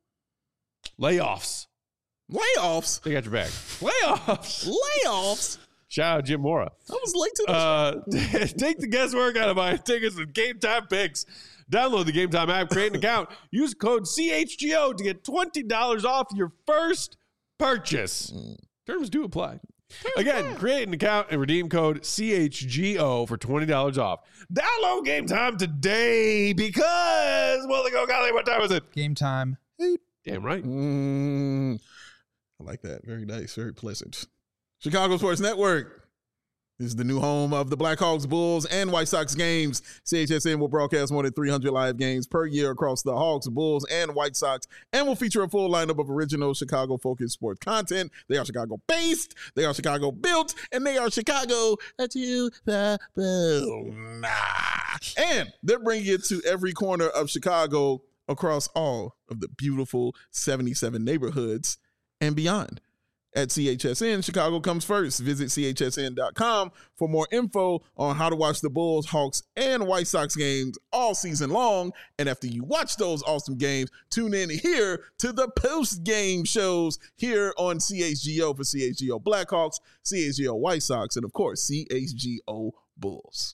layoffs. Layoffs. They got your back. Layoffs. Layoffs. Shout out Jim Mora. I was late to the Uh, take the guesswork out of buying tickets with Game Time Picks. Download the Game Time app, create an account, use code C H G O to get twenty dollars off your first purchase. Terms do apply. Again, create an account and redeem code C H G O for twenty dollars off. Download Game Time today because, well, they go, golly, what time is it? Game time. Damn right. Mm, I like that. Very nice. Very pleasant. Chicago Sports Network. This is the new home of the Blackhawks, Bulls, and White Sox games. C H S N will broadcast more than three hundred live games per year across the Hawks, Bulls, and White Sox, and will feature a full lineup of original Chicago-focused sports content. They are Chicago-based, they are Chicago-built, and they are Chicago to the bone. And they're bringing it to every corner of Chicago across all of the beautiful seventy-seven neighborhoods and beyond. At C H S N, Chicago comes first. Visit C H S N dot com for more info on how to watch the Bulls, Hawks, and White Sox games all season long. And after you watch those awesome games, tune in here to the post-game shows here on C H G O for C H G O Blackhawks, C H G O White Sox, and of course, C H G O Bulls.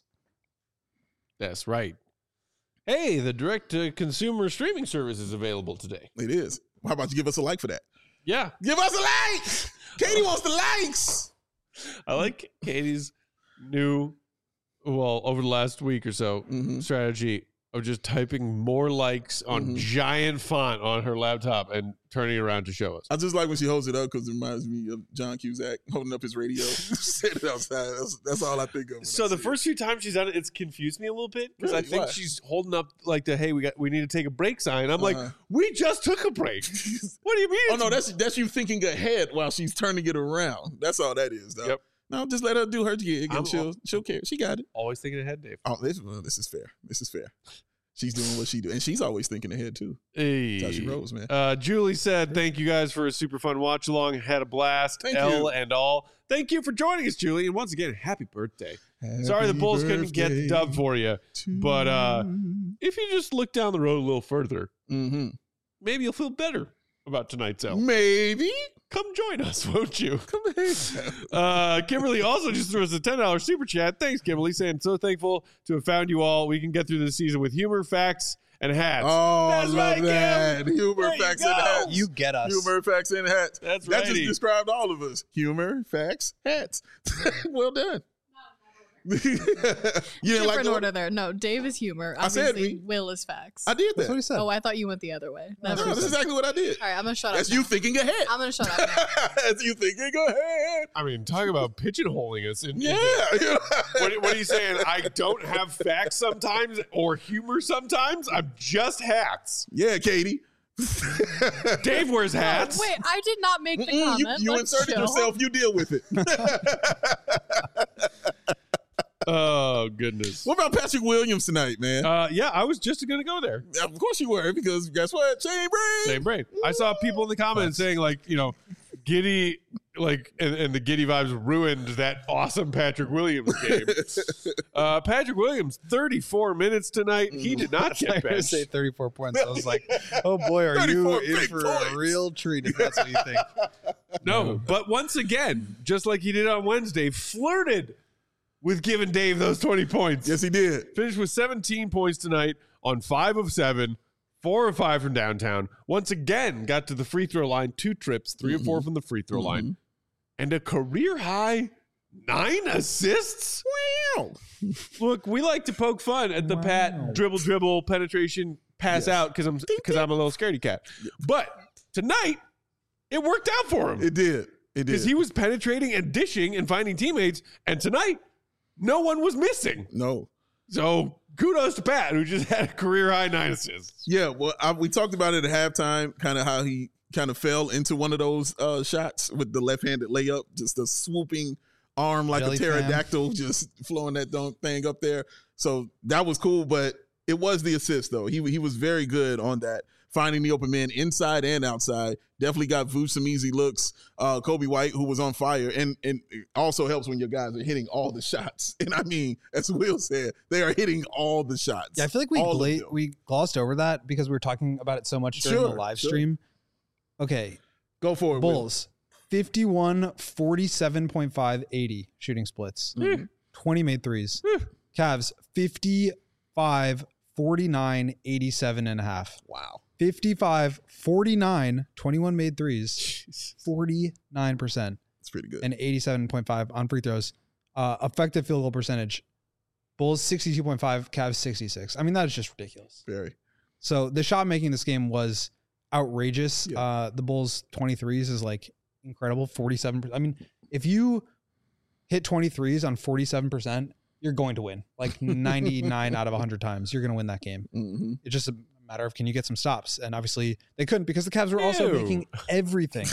That's right. Hey, the direct-to-consumer streaming service is available today. It is. How about you give us a like for that? Yeah. Give us a like! Katie wants the likes! I like Katie's new, well, over the last week or so, Mhm. strategy of just typing more likes on Mhm. giant font on her laptop and turning it around to show us. I just like when she holds it up because it reminds me of John Cusack holding up his radio. Set it outside. That's, that's all I think of. when So I the see first few times she's done it, it's confused me a little bit because I Really? think Why? she's holding up like the, hey, we got we need to take a break sign. I'm Uh-huh. like, we just took a break. it. What do you mean? Oh no, that's that's you thinking ahead while she's turning it around. That's all that is, though. Yep. No, just let her do her gig I'm- and she'll she'll care. She got it. Always thinking ahead, Dave. Oh, this well, this is fair. This is fair. She's doing what she do, and she's always thinking ahead too. Hey. That's how she rolls, man. Uh, Julie said, thank you guys for a super fun watch along. Had a blast. Thank L you. and all. Thank you for joining us, Julie. And once again, happy birthday. Sorry the Happy Bulls couldn't get the dub birthday for you. to but, uh, If you just look down the road a little further, mm-hmm. maybe you'll feel better about tonight's L. Maybe. Come join us, won't you? Come here. Uh, Kimberly also just threw us a ten dollars super chat. Thanks, Kimberly, saying so thankful to have found you all. We can get through this season with humor, facts, and hats. Oh, That's I love right, that. Kim. Humor, There you facts, go. and hats. You get us. Humor, facts, and hats. That's That righty. just described all of us. Humor, facts, hats. Well done. You didn't Different like the order there. No, Dave is humor. I said Obviously, we- Will is facts. I did That's what he that. said. Oh, I thought you went the other way. No, Never that's mind. exactly what I did. All right, I'm gonna shut That's up. you now. thinking ahead. I'm gonna shut up now. That's you thinking ahead. I mean, talk about pigeonholing us. In, Yeah. into- what, what are you saying? I don't have facts sometimes or humor sometimes? I'm just hats. Yeah, Katie. Dave wears hats. Wait, I did not make the Mm-mm, you comment. you Let's inserted chill. yourself. You deal with it. Oh, goodness. What about Patrick Williams tonight, man? Uh, yeah, I was just going to go there. Of course you were, because guess what? Shane Brain. Same brain. I saw people in the comments saying, like, you know, Giddy, like, and, and the Giddy vibes ruined that awesome Patrick Williams game. uh, Patrick Williams, thirty-four minutes tonight. He did not I get was gonna benched. say thirty-four points. I was like, oh boy, are you thirty-four in big for points. a real treat if that's what you think. No, but once again, just like he did on Wednesday, flirted with giving Dave those twenty points. Yes, he did. Finished with seventeen points tonight on five of seven, four of five from downtown. Once again, got to the free throw line, two trips, three Mm-hmm. of four from the free throw line, and a career high nine assists. Wow. Look, we like to poke fun at the Wow. pat dribble, dribble, penetration, pass Yes. out because I'm because I'm a little scaredy cat. But tonight, it worked out for him It did. It because did. he was penetrating and dishing and finding teammates. And tonight, no one was missing. no. So kudos to Pat, who just had a career high nine assists. Yeah, well, I, we talked about it at halftime, kind of how he kind of fell into one of those uh, shots with the left-handed layup, just a swooping arm like Jelly a pterodactyl, just flowing that dunk thing up there. So that was cool, but it was the assist though. He he was very good on that, finding the open man inside and outside. Definitely got Vooch some easy looks. Uh, Kobe White, who was on fire, and and it also helps when your guys are hitting all the shots. And I mean, as Will said, they are hitting all the shots. Yeah, I feel like we All of gla- them. we glossed over that because we were talking about it so much during Sure, the live sure. stream. Okay, Go for it, Will. Bulls fifty-one, forty-seven point five, eighty shooting splits. Mhm. twenty made threes. Cavs fifty-five, forty-nine, eighty-seven and a half. Wow. fifty-five, forty-nine, twenty-one made threes, forty-nine percent, It's pretty good. and eighty-seven point five on free throws. Uh, effective field goal percentage, Bulls sixty-two point five, Cavs sixty-six. I mean, that is just ridiculous. Very. So the shot making this game was outrageous. Yeah. Uh, the Bulls twenty-threes is like incredible, forty-seven percent. I mean, if you hit twenty-threes on forty-seven percent, you're going to win. Like ninety-nine out of one hundred times, you're going to win that game. Mm-hmm. It's just a matter of can you get some stops? And obviously they couldn't because the Cavs were also Ew. making everything.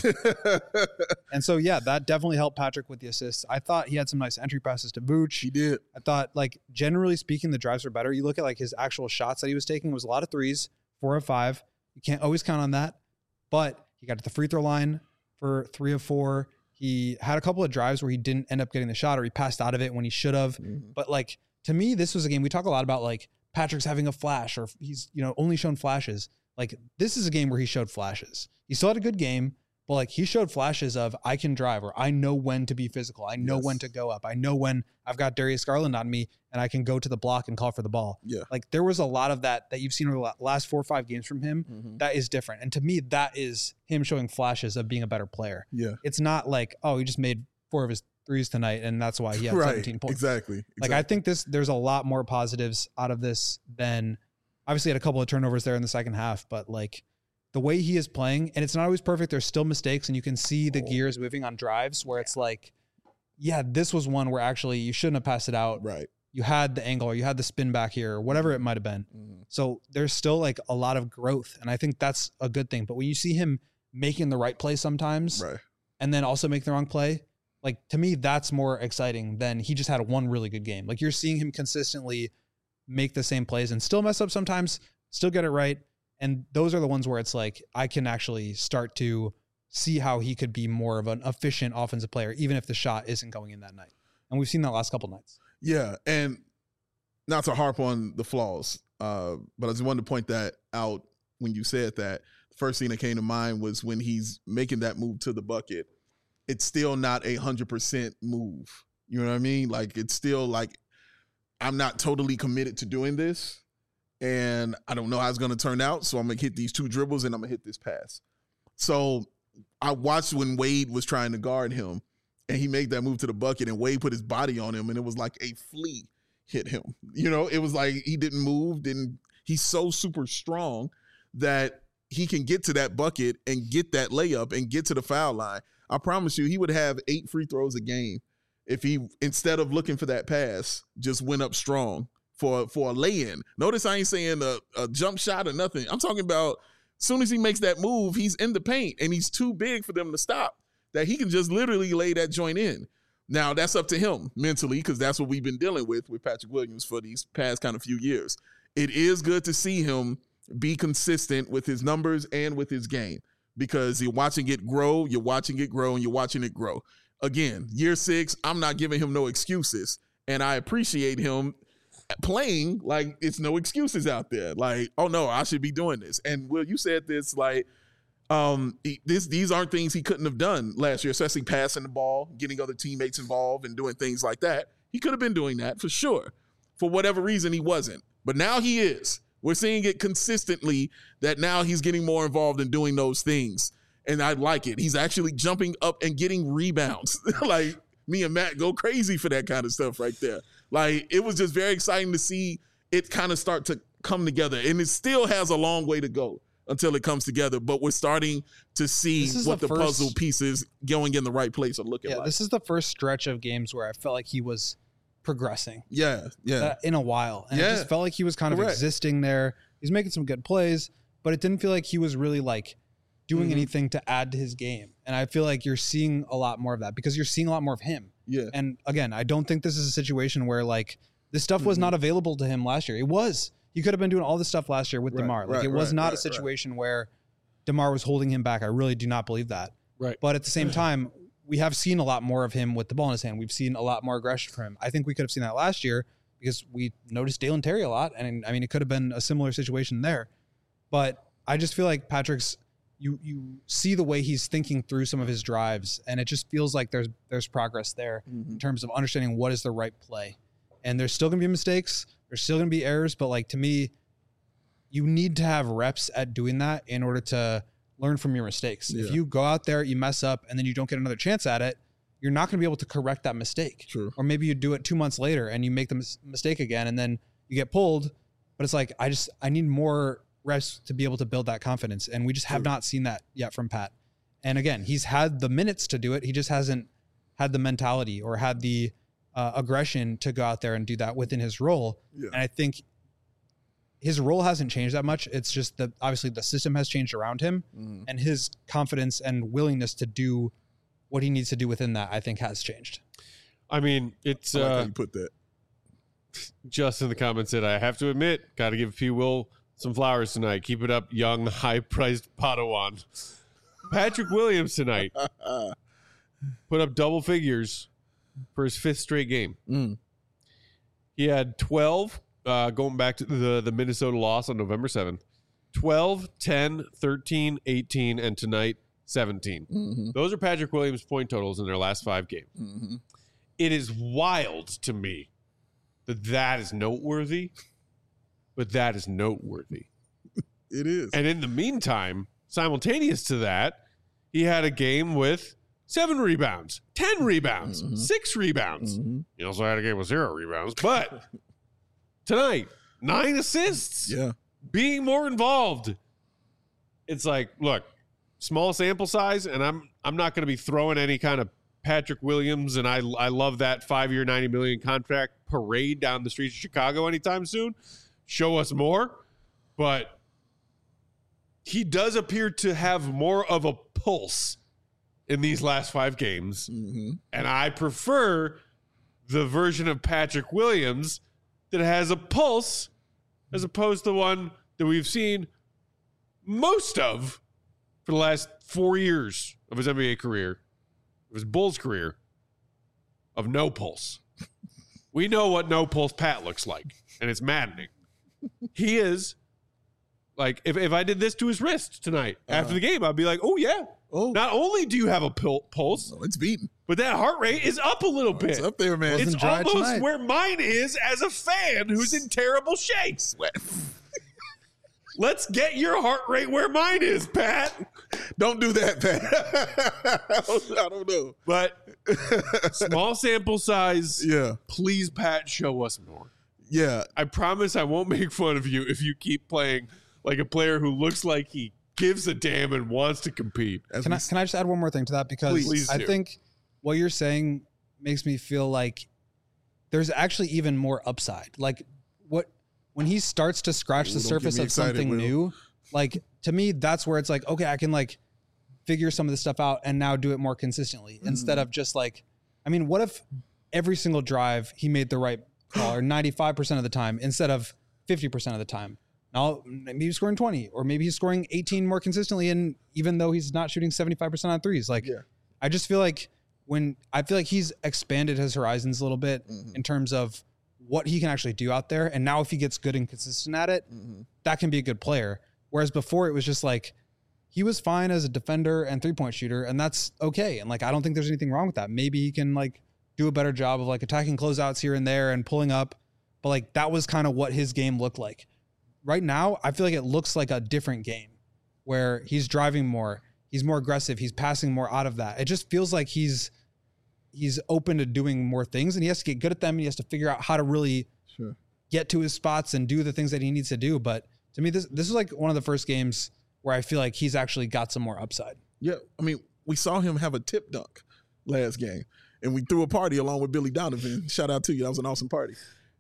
And so, yeah, that definitely helped Patrick with the assists. I thought he had some nice entry passes to Vooch. He did. I thought, like, generally speaking, the drives were better. You look at, like, his actual shots that he was taking, it was a lot of threes, four of five. You can't always count on that. But he got to the free throw line for three of four. He had a couple of drives where he didn't end up getting the shot or he passed out of it when he should have. Mhm. But, like, to me, this was a game, we talk a lot about, like, Patrick's having a flash or he's, you know, only shown flashes. Like, this is a game where he showed flashes. He still had a good game, but, like, he showed flashes of I can drive or I know when to be physical. I know Yes. when to go up. I know when I've got Darius Garland on me and I can go to the block and call for the ball. Yeah. Like, there was a lot of that that you've seen over the la- last four or five games from him Mhm. that is different. And to me, that is him showing flashes of being a better player. Yeah. It's not like, oh, he just made four of his threes tonight and that's why he had Right. seventeen points. Exactly. Like, exactly. I think this, there's a lot more positives out of this than obviously had a couple of turnovers there in the second half, but like the way he is playing, and it's not always perfect. There's still mistakes and you can see the Oh. gears moving on drives where it's like, yeah, this was one where actually you shouldn't have passed it out. Right. You had the angle or you had the spin back here or whatever it might have been. Mhm. So there's still like a lot of growth. And I think that's a good thing. But when you see him making the right play sometimes Right. and then also make the wrong play, like to me, that's more exciting than he just had one really good game. Like you're seeing him consistently make the same plays and still mess up sometimes, still get it right. And those are the ones where it's like, I can actually start to see how he could be more of an efficient offensive player, even if the shot isn't going in that night. And we've seen that last couple nights. Yeah, and not to harp on the flaws, uh, but I just wanted to point that out when you said that. first thing that came to mind was when he's making that move to the bucket, it's still not a hundred percent move. You know what I mean? Like, it's still like, I'm not totally committed to doing this, and I don't know how it's going to turn out. So I'm going to hit these two dribbles and I'm going to hit this pass. So I watched when Wade was trying to guard him, and he made that move to the bucket, and Wade put his body on him, and it was like a flea hit him. You know, it was like he didn't move. Didn't he's so super strong that he can get to that bucket and get that layup and get to the foul line. I promise you, he would have eight free throws a game if he, instead of looking for that pass, just went up strong for, for a lay-in. Notice I ain't saying a, a jump shot or nothing. I'm talking about as soon as he makes that move, he's in the paint, and he's too big for them to stop, that he can just literally lay that joint in. Now, that's up to him mentally, because that's what we've been dealing with with Patrick Williams for these past kind of few years. It is good to see him be consistent with his numbers and with his game, because you're watching it grow, you're watching it grow, and you're watching it grow. Again, year six, I'm not giving him no excuses, and I appreciate him playing like it's no excuses out there. Like, oh, no, I should be doing this. And, Will, you said this, like, um, this these aren't things he couldn't have done last year, especially passing the ball, getting other teammates involved, and doing things like that. He could have been doing that for sure. For whatever reason, he wasn't. But now he is. We're seeing it consistently that now he's getting more involved in doing those things. And I like it. He's actually jumping up and getting rebounds. Like, me and Matt go crazy for that kind of stuff right there. Like, it was just very exciting to see it kind of start to come together. And it still has a long way to go until it comes together. But we're starting to see what the, the first, puzzle pieces going in the right place are looking yeah, like. This is the first stretch of games where I felt like he was progressing. Yeah, yeah. Uh, in a while. And yeah. it just felt like he was kind Correct. of existing there. He's making some good plays, but it didn't feel like he was really like doing mm-hmm. anything to add to his game. And I feel like you're seeing a lot more of that because you're seeing a lot more of him. Yeah. And again, I don't think this is a situation where like this stuff was mm-hmm. not available to him last year. It was. He could have been doing all this stuff last year with right, DeMar. Like right, it was right, not right, a situation right. where DeMar was holding him back. I really do not believe that. Right. But at the same time, we have seen a lot more of him with the ball in his hand. We've seen a lot more aggression from him. I think we could have seen that last year because we noticed Dalen Terry a lot. And I mean, it could have been a similar situation there. But I just feel like Patrick's, you you see the way he's thinking through some of his drives, and it just feels like there's there's progress there mm-hmm. in terms of understanding what is the right play. And there's still going to be mistakes. There's still going to be errors. But like to me, you need to have reps at doing that in order to learn from your mistakes. Yeah. If you go out there, you mess up, and then you don't get another chance at it, you're not going to be able to correct that mistake. True. Or maybe you do it two months later and you make the mis- mistake again, and then you get pulled. But it's like, I just, I need more reps to be able to build that confidence. And we just have True. not seen that yet from Pat. And again, he's had the minutes to do it. He just hasn't had the mentality or had the uh, aggression to go out there and do that within his role. Yeah. And I think his role hasn't changed that much. It's just that obviously the system has changed around him mm. and his confidence and willingness to do what he needs to do within that, I think, has changed. I mean, it's I like uh, how you put that. Just in the comments said, I have to admit, got to give P. Will some flowers tonight. Keep it up, young, high-priced Padawan. Patrick Williams tonight put up double figures for his fifth straight game. Mm. He had twelve, uh, going back to the, the Minnesota loss on November seventh, twelve, ten, thirteen, eighteen, and tonight, seventeen. Mm-hmm. Those are Patrick Williams' point totals in their last five games. Mm-hmm. It is wild to me that that is noteworthy, but that is noteworthy. It is. And in the meantime, simultaneous to that, he had a game with seven rebounds, ten rebounds, mm-hmm. six rebounds. Mm-hmm. He also had a game with zero rebounds. But tonight, nine assists. Yeah. Being more involved. It's like, look, small sample size, and I'm I'm not going to be throwing any kind of Patrick Williams, and I I love that five-year, ninety million dollars contract parade down the streets of Chicago anytime soon. Show us more. But he does appear to have more of a pulse in these last five games. Mm-hmm. And I prefer the version of Patrick Williams that has a pulse as opposed to the one that we've seen most of for the last four years of his N B A career, of his Bulls career, of no pulse. We know what no pulse Pat looks like, and it's maddening. He is Like if, if I did this to his wrist tonight Uh-huh. after the game, I'd be like, oh yeah. Oh, Not only do you have a pul- pulse, oh, it's beating. but that heart rate is up a little bit. It's up there, man. It's Wasn't dry almost tonight. where mine is as a fan who's in terrible shape. Sweat. Let's get your heart rate where mine is, Pat. Don't do that, Pat. I don't know. But small sample size. Yeah, Please, Pat, show us more. yeah. I promise I won't make fun of you if you keep playing like a player who looks like he gives a damn and wants to compete. As Can we I can I just add one more thing to that because Please. Please I do. think what you're saying makes me feel like there's actually even more upside. Like what when he starts to scratch Ooh, the don't get surface me of excited, something Will. new, like to me that's where it's like okay, I can like figure some of this stuff out and now do it more consistently Mm-hmm. instead of just like I mean, what if every single drive he made the right call or ninety-five percent of the time instead of fifty percent of the time? Now maybe he's scoring twenty or maybe he's scoring eighteen more consistently. And even though he's not shooting seventy-five percent on threes, like Yeah. I just feel like when I feel like he's expanded his horizons a little bit Mhm. in terms of what he can actually do out there. And now if he gets good and consistent at it, Mhm. that can be a good player. Whereas before it was just like, he was fine as a defender and three point shooter. And that's okay. And like, I don't think there's anything wrong with that. Maybe he can like do a better job of like attacking closeouts here and there and pulling up. But like, that was kind of what his game looked like. Right now, I feel like it looks like a different game where he's driving more. He's more aggressive. He's passing more out of that. It just feels like he's he's open to doing more things and he has to get good at them and he has to figure out how to really Sure. get to his spots and do the things that he needs to do. But to me, this this is like one of the first games where I feel like he's actually got some more upside. Yeah, I mean, we saw him have a tip dunk last game, and we threw a party along with Billy Donovan. Shout out to you, that was an awesome party.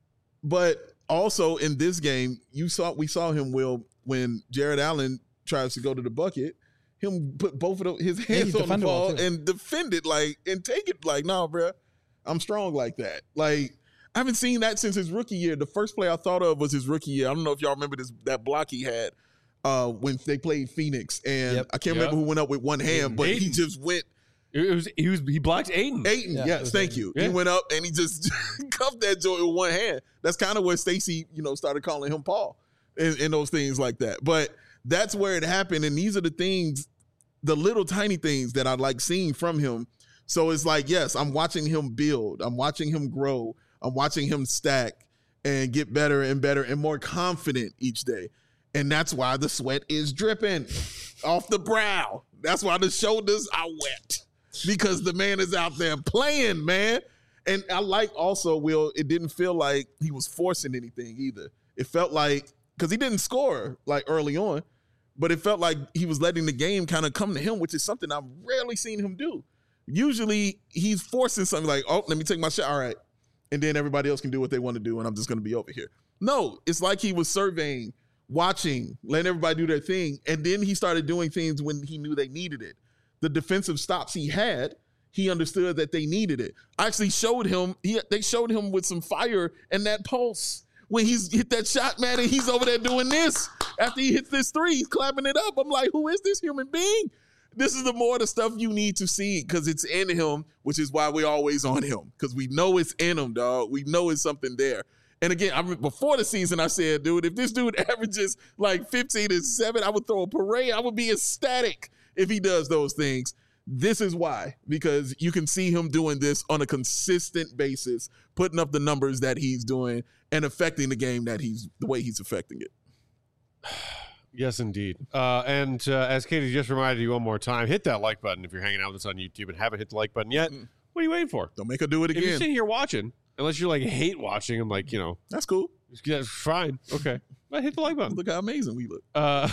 But also in this game, you saw we saw him Will when Jared Allen tries to go to the bucket, him put both of the, his hands he on the defended well, ball too. and defend it like and take it like, nah, bro, I'm strong like that. Like I haven't seen that since his rookie year. The first play I thought of was his rookie year. I don't know if y'all remember this that block he had uh, when they played Phoenix, and Yep. I can't Yep. remember who went up with one hand, but he Aiden. just went. It was he was he blocked Aiden. Aiden, Yeah, it yes, was thank Aiden. you. Yeah. He went up and he just cuffed that joint with one hand. That's kind of where Stacey, you know, started calling him Paul and, and those things like that. But that's where it happened. And these are the things, the little tiny things that I like seeing from him. So it's like, yes, I'm watching him build. I'm watching him grow. I'm watching him stack and get better and better and more confident each day. And that's why the sweat is dripping off the brow. That's why the shoulders are wet. Because the man is out there playing, man. And I like also, Will, it didn't feel like he was forcing anything either. It felt like, because he didn't score like early on, but it felt like he was letting the game kind of come to him, which is something I've rarely seen him do. Usually he's forcing something like, oh, let me take my shot. All right. And then everybody else can do what they want to do, and I'm just going to be over here. No, it's like he was surveying, watching, letting everybody do their thing. And then he started doing things when he knew they needed it. The defensive stops he had, he understood that they needed it. I actually showed him, he, they showed him with some fire and that pulse when he's hit that shot, man, and he's over there doing this. After he hits this three, he's clapping it up. I'm like, who is this human being? This is the more the stuff you need to see because it's in him, which is why we're always on him because we know it's in him, dog. We know it's something there. And again, I before the season, I said, dude, if this dude averages like fifteen and seven, I would throw a parade. I would be ecstatic if he does those things. This is why, because you can see him doing this on a consistent basis, putting up the numbers that he's doing and affecting the game that he's the way he's affecting it. Yes, indeed. Uh, and uh, as Katie just reminded you one more time, hit that like button if you're hanging out with us on YouTube and haven't hit the like button yet. Mm. What are you waiting for? Don't make her do it If you're again. sitting here watching, unless you're like hate watching, I'm like, you know, That's cool. that's fine. Okay. But hit the like button. Look how amazing we look. Uh,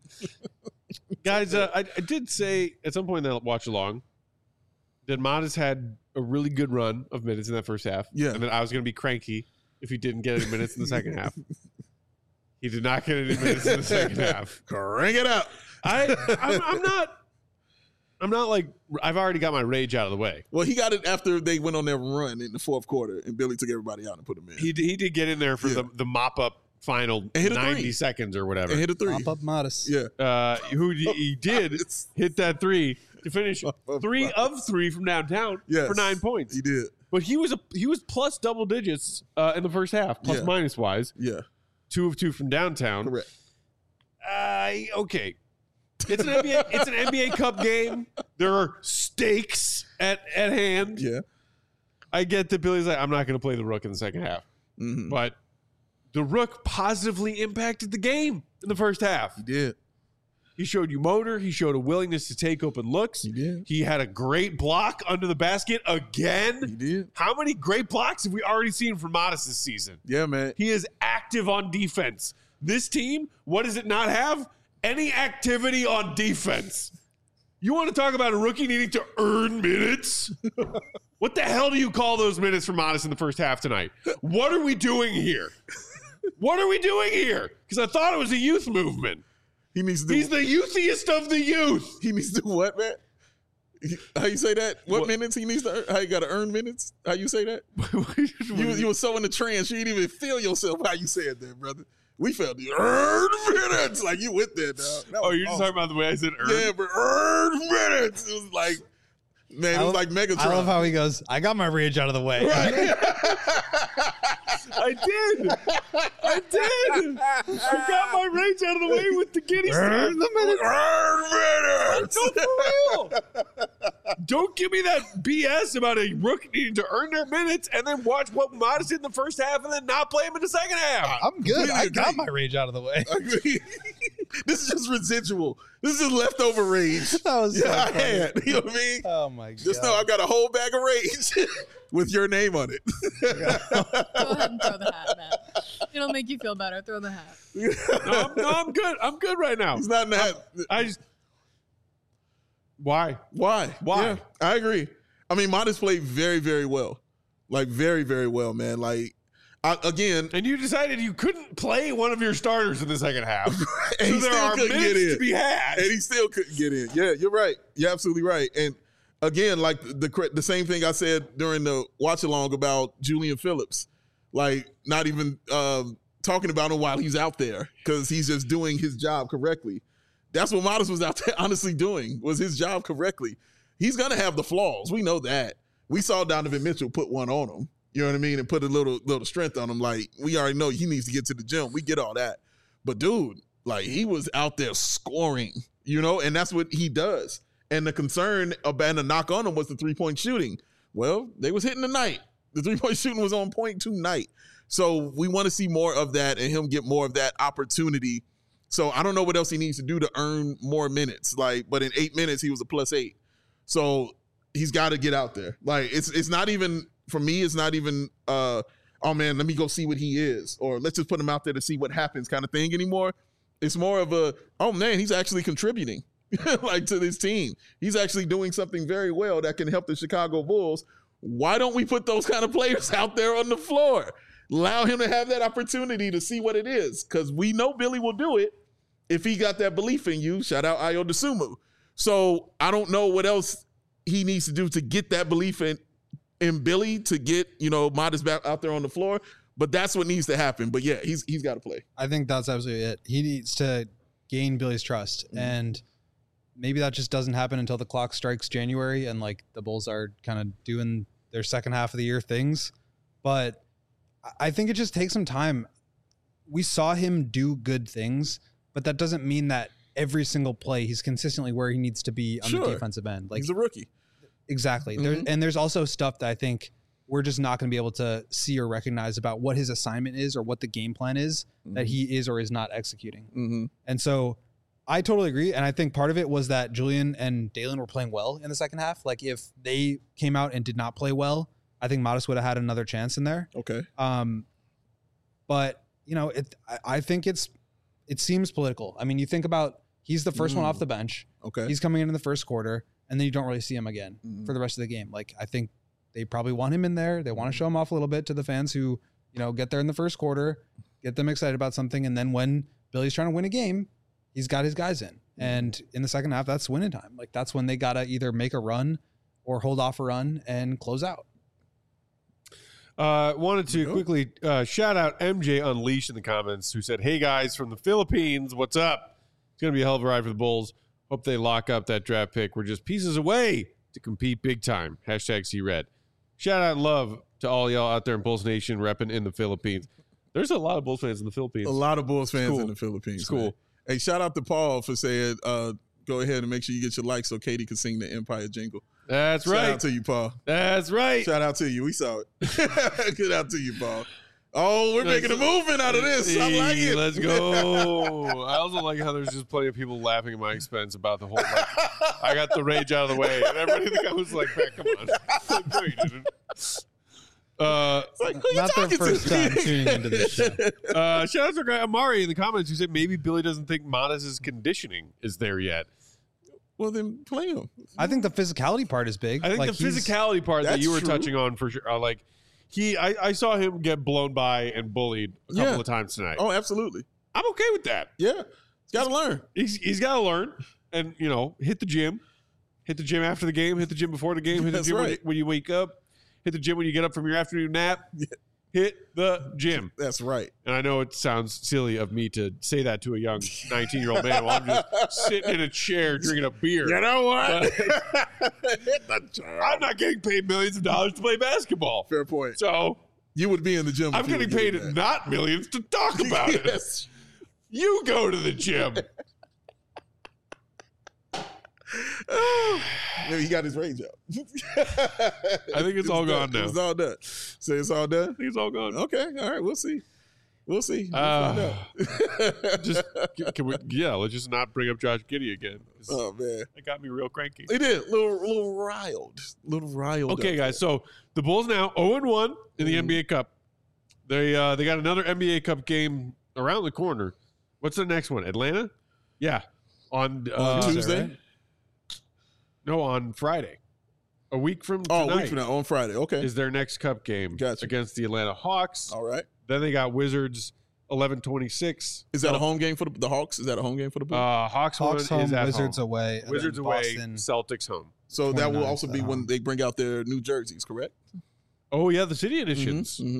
guys, uh, I, I did say at some point in that watch along that Modest had a really good run of minutes in that first half. Yeah. And that I was going to be cranky if he didn't get any minutes in the second half. He did not get any minutes in the second half. Crank it up. I, I'm, I'm not, I'm not like, I've already got my rage out of the way. Well, he got it after they went on their run in the fourth quarter, and Billy took everybody out and put him in. He, he did get in there for Yeah. the, the mop up final And hit a ninety three. seconds or whatever. and hit a three. Pop up modest. Yeah. Uh, who he, he did It's- hit that three to finish three of three from downtown Yes. for nine points. He did. But he was a he was plus double digits uh, in the first half, plus Yeah. minus wise, Yeah. two of two from downtown. Correct. Uh, okay. It's an N B A. It's an N B A Cup game. There are stakes at, at hand. Yeah. I get that Billy's like, I'm not going to play the Rook in the second half. Mm-hmm. But the Rook positively impacted the game in the first half. He did. He showed you motor. He showed a willingness to take open looks. He did. He had a great block under the basket again. He did. How many great blocks have we already seen from Modest this season? Yeah, man. He is active on defense. This team, what does it not have? Any activity on defense. You want to talk about a rookie needing to earn minutes? What the hell do you call those minutes for Modest in the first half tonight? What are we doing here? What are we doing here? Because I thought it was a youth movement. He needs to do, He's the youthiest of the youth. He needs to do what, man? How you say that? What, What? minutes he needs to earn? How you got to earn minutes? How you say that? You, you were so in the trance, you didn't even feel yourself how you said that, brother. We felt the earn minutes. Like you went there, dog. That Oh, was you're just awesome. talking about the way I said earn? Yeah, but earn minutes. It was like, man, it I was love- like Megatron. I love how he goes, I got my rage out of the way. I did. I did. I got my rage out of the way with the giddy stick. Earn the minutes. Earn minutes. No, for real. Don't give me that B S about a rookie needing to earn their minutes and then watch what Modest did in the first half and then not play him in the second half. I'm good. I Completely got agree. my rage out of the way. I agree. This is just residual. This is just leftover rage. That was so yeah, I funny. had. You know what I mean? Oh my god. Just know I got a whole bag of rage with your name on it. Go ahead and throw the hat, Matt. It'll make you feel better. Throw the hat. No, I'm, no, I'm good. I'm good right now. He's not in that. I just. Why? Why? Why? Yeah, I agree. I mean, Modest played very, very well. Like, very, very well, man. Like, I, again, And you decided you couldn't play one of your starters in the second half. and So he there still are couldn't minutes get in. to be had. And he still couldn't get in. Yeah, you're right. You're absolutely right. And again, like the the same thing I said during the watch along about Julian Phillips, like not even um, talking about him while he's out there because he's just doing his job correctly. That's what Modest was out there honestly doing, was his job correctly. He's gonna have the flaws. We know that. We saw Donovan Mitchell put one on him. You know what I mean? And put a little little strength on him. Like, we already know he needs to get to the gym. We get all that. But dude, like, he was out there scoring, you know, and that's what he does. And the concern about the knock on him was the three-point shooting. Well, they was hitting tonight. The three-point shooting was on point tonight. So we want to see more of that and him get more of that opportunity. So I don't know what else he needs to do to earn more minutes. Like, but in eight minutes, he was a plus eight. So he's got to get out there. Like, it's it's not even, for me, it's not even, uh, oh man, let me go see what he is, or let's just put him out there to see what happens kind of thing anymore. It's more of a, oh man, he's actually contributing like to this team. He's actually doing something very well that can help the Chicago Bulls. Why don't we put those kind of players out there on the floor? Allow him to have that opportunity to see what it is, because we know Billy will do it if he got that belief in you. Shout out Ayo Dosunmu. So I don't know what else he needs to do to get that belief in in Billy, to get, you know, Modest back out there on the floor. But that's what needs to happen. But yeah, he's he's got to play. I think that's absolutely it. He needs to gain Billy's trust. Mm-hmm. And maybe that just doesn't happen until the clock strikes January and like the Bulls are kind of doing their second half of the year things. But I think it just takes some time. We saw him do good things, but that doesn't mean that every single play he's consistently where he needs to be on Sure. the defensive end. Like, He's a rookie. exactly. There, Mhm. and there's also stuff that I think we're just not going to be able to see or recognize about what his assignment is or what the game plan is that he is or is not executing. Mm-hmm. And so I totally agree. And I think part of it was that Julian and Dalen were playing well in the second half. Like, if they came out and did not play well, I think Modest would have had another chance in there. Okay. Um, but you know, it. I, I think it's it seems political. I mean, you think about he's the first one Mm. off the bench. Okay. He's coming in in the first quarter, and then you don't really see him again Mhm. for the rest of the game. Like, I think they probably want him in there. They want to show him off a little bit to the fans who, you know, get there in the first quarter, get them excited about something, and then when Billy's trying to win a game, he's got his guys in. And in the second half, that's winning time. Like, that's when they gotta either make a run or hold off a run and close out. Uh, wanted to Go. quickly uh, shout out M J Unleashed in the comments, who said, "Hey guys from the Philippines, what's up? It's gonna be a hell of a ride for the Bulls. Hope they lock up that draft pick. We're just pieces away to compete big time." Hashtag C Red. Shout out and love to all y'all out there in Bulls Nation repping in the Philippines. There's a lot of Bulls fans in the Philippines. A lot of Bulls fans cool. in the Philippines. It's cool. man. Hey, shout out to Paul for saying, uh, go ahead and make sure you get your likes so Katie can sing the Empire jingle. That's Shout right. out to you, Paul. That's right. Shout out to you. We saw it. Good out to you, Paul. Oh, we're making a movement out of this. I like it. Let's go. I also like how there's just plenty of people laughing at my expense about the whole, like, I got the rage out of the way. And everybody think I was like, man, come on. Like, no, you didn't. Uh, It's like, who you Not their talking first to? time tuning into this show. uh, shout out to our guy Amari in the comments who said maybe Billy doesn't think Modest's conditioning is there yet. Well, then play him. I think the physicality part is big. I think Like, the he's- physicality part that That's you were true. touching on for sure, uh, like he, I, I saw him get blown by and bullied a couple Yeah. of times tonight. Oh, absolutely. I'm okay with that. Yeah. Got to learn. He's he's got to learn and you know hit the gym, hit the gym after the game, hit the gym before the game, hit the That's gym when, you, right. when you wake up, hit the gym when you get up from your afternoon nap. Hit the gym. That's right. And I know it sounds silly of me to say that to a young nineteen-year-old man while I'm just sitting in a chair drinking a beer. You know what? Hit the gym. I'm not getting paid millions of dollars to play basketball. Fair point. So You would be in the gym. I'm if you getting were paid doing that. not millions to talk about it. Yes. You go to the gym. Oh, maybe he got his rage out. I think it's all gone done. now. It's all done. So it's all done? I think it's all gone. Okay. All right. We'll see. We'll see. We'll Uh, find out. Just can we? Yeah, let's just not bring up Josh Giddey again. 'Cause Oh, man. It got me real cranky. They did. Little, little riled. Little riled. Okay, up guys. So the Bulls now zero and one in the Mhm. N B A Cup. They uh, they got another N B A Cup game around the corner. What's the next one? Atlanta? Yeah, on there. uh, On Tuesday? right? No, on Friday. A week from Oh, tonight a week from now. On Friday. Okay. is their next Cup game Gotcha. against the Atlanta Hawks. all right. Then they got Wizards eleven twenty-six. Is that a home game for the, the Hawks? Is that a home game for the Bulls? Uh, Hawks, Hawks one home, is at Wizards home. away. and Wizards then away, Boston. Celtics home. so that will twenty-ninth also be at when home. they bring out their new jerseys, correct? Oh yeah, the city editions. Mm-hmm.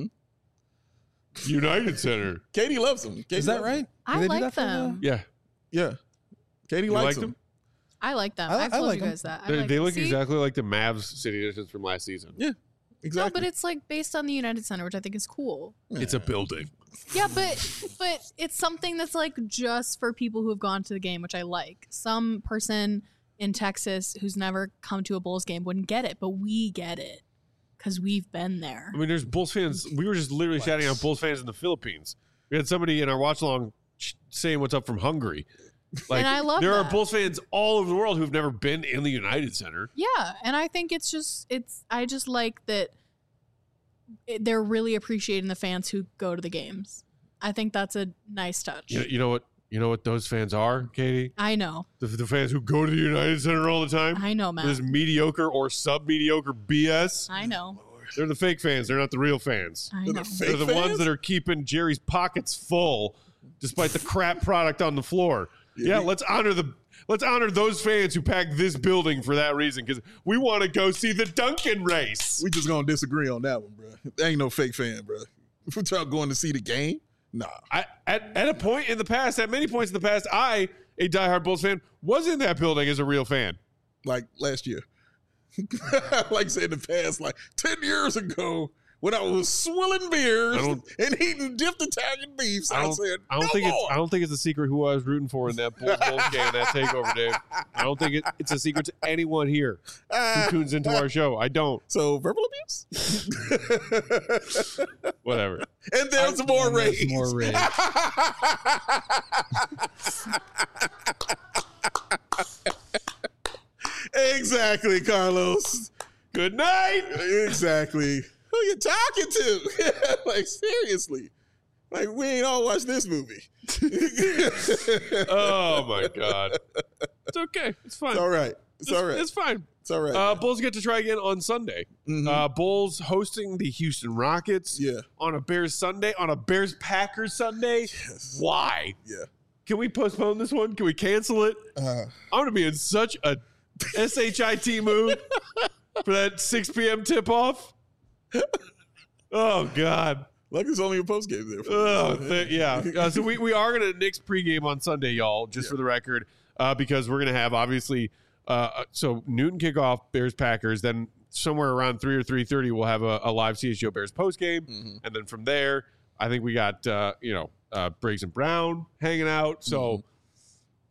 United Center. Katie loves them. Katie Is that loves right? Do I they do like that for the- them. Yeah, Yeah. Katie you likes like them. them? I like them. I li- I've I told like you them. guys that. I They, like they them. look See? exactly like the Mavs city editions from last season. Yeah. Exactly. No, but it's like based on the United Center, which I think is cool. It's a building. Yeah, but but it's something that's like just for people who have gone to the game, which I like. Some person in Texas who's never come to a Bulls game wouldn't get it, but we get it because we've been there. I mean, there's Bulls fans. We were just literally shouting out Bulls fans in the Philippines. We had somebody in our watch along saying what's up from Hungary. Like, And I love there are that. Bulls fans all over the world who've never been in the United Center. Yeah, and I think it's just it's I just like that it, they're really appreciating the fans who go to the games. I think that's a nice touch. You, you know what? You know what those fans are, Katie? I know. The, the fans who go to the United Center all the time. I know, Matt. This mediocre or sub mediocre B S. I know. They're the fake fans. They're not the real fans. I They're know. the fake They're the fans? ones that are keeping Jerry's pockets full despite the crap product on the floor. Yeah, Yeah. let's honor the let's honor those fans who packed this building for that reason because we want to go see the Duncan race. We just gonna disagree on that one, bro. There ain't no fake fan, bro. If we're talking going to see the game, nah. I, at at a point in the past, at many points in the past, I, a diehard Bulls fan, was in that building as a real fan. Like last year. Like I said in the past, like ten years ago, when I was swilling beers I don't- and eating dipped Italian beefs, I I, don't, said, I don't no think more. it's I don't think it's a secret who I was rooting for in that Bulls Bulls game, that takeover, Dave. I don't think it, it's a secret to anyone here who tunes into our show. I don't. So verbal abuse? Whatever. And there's more And there's rage. more rage. Exactly, Carlos. Good night. Exactly. Who you talking to? Like, seriously. Like, we ain't all watched this movie. Oh my God. It's okay. It's fine. It's all right. It's all right. It's fine. It's all right. Uh, Bulls get to try again on Sunday. Mhm. Uh, Bulls hosting the Houston Rockets yeah. on a Bears Sunday, on a Bears Packers Sunday. Yes. Why? Yeah. Can we postpone this one? Can we cancel it? Uh, I'm gonna be in such a shit mood for that six p.m. tip off. Oh God. like it's only a post game there. For Oh you. th- yeah. Uh, so we, we are gonna Knicks pregame on Sunday, y'all. Just Yeah. for the record, uh, because we're gonna have obviously. Uh, so Newton kickoff, Bears Packers. Then somewhere around three or three thirty, we'll have a, a live C H G O Bears post game, Mhm. and then from there, I think we got uh, you know uh, Briggs and Brown hanging out. So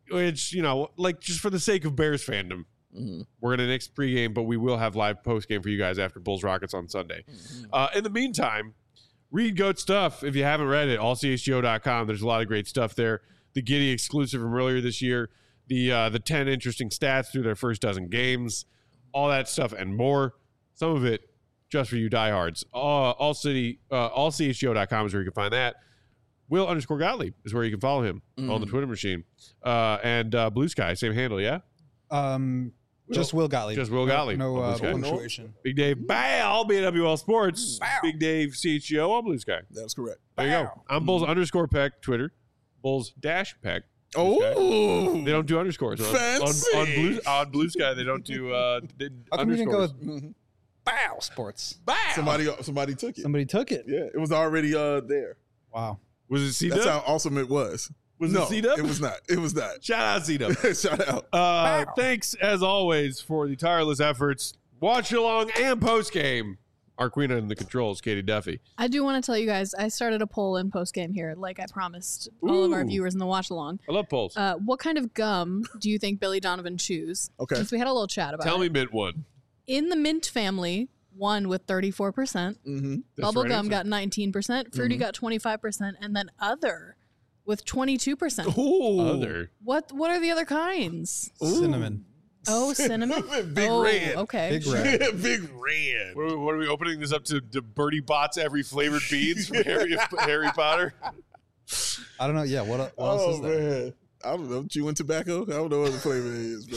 which, you know, like just for the sake of Bears fandom, Mm-hmm. we're going to next pregame, but we will have live postgame for you guys after Bulls Rockets on Sunday. Mm-hmm. Uh, in the meantime, read GOAT stuff. If you haven't read it, all c h g o dot com. There's a lot of great stuff there. The Giddy exclusive from earlier this year, the uh, the ten interesting stats through their first dozen games, all that stuff and more. Some of it just for you diehards. All, all city, uh, all c h g o dot com is where you can find that. Will underscore Gottlieb is where you can follow him Mm. on the Twitter machine. Uh, and uh, Blue Sky, same handle, yeah? Um, just Will Gottlieb. Just Will Gottlieb. No, no on uh, Blue Sky. punctuation. Big Dave Bow, B W L Sports. Big Dave C H G O on Blue Sky. That's correct. There you go. I'm Bulls underscore Peck, Twitter. Bulls dash Peck. Oh, They don't do underscores. On, on, Fancy. on, Blue, on Blue Sky, they don't do uh, they- How come you didn't go underscores. with Mhm. Bow Sports? somebody somebody took it. Somebody took it. Yeah, it was already uh there. Wow. Was it C That's Dub? how awesome it was. Was no, it C Dub? It was not. It was not. Shout out C Dub. Shout out. Uh, thanks as always for the tireless efforts. Watch along and post game. Our queen in the controls, Katie Duffy. I do want to tell you guys, I started a poll in post game here, like I promised all of our Ooh. viewers in the watch along. I love polls. Uh, what kind of gum do you think Billy Donovan chews? Okay. Since we had a little chat about Tell it. me mint one. In the mint family, one with thirty-four percent. Mm-hmm. That's the right Bubblegum answer. got nineteen percent. Fruity got twenty-five percent. And then other with twenty-two percent. Ooh. Other. What What are the other kinds? Cinnamon. Oh, cinnamon? Big oh, red. Okay. Big red. Big red. What are, we, what are we opening this up to? To Birdie Bots every flavored beans from Harry, Harry Potter? I don't know. Yeah. What, what else Oh is there? man, I don't know. Chewing tobacco. I don't know what the flavor is,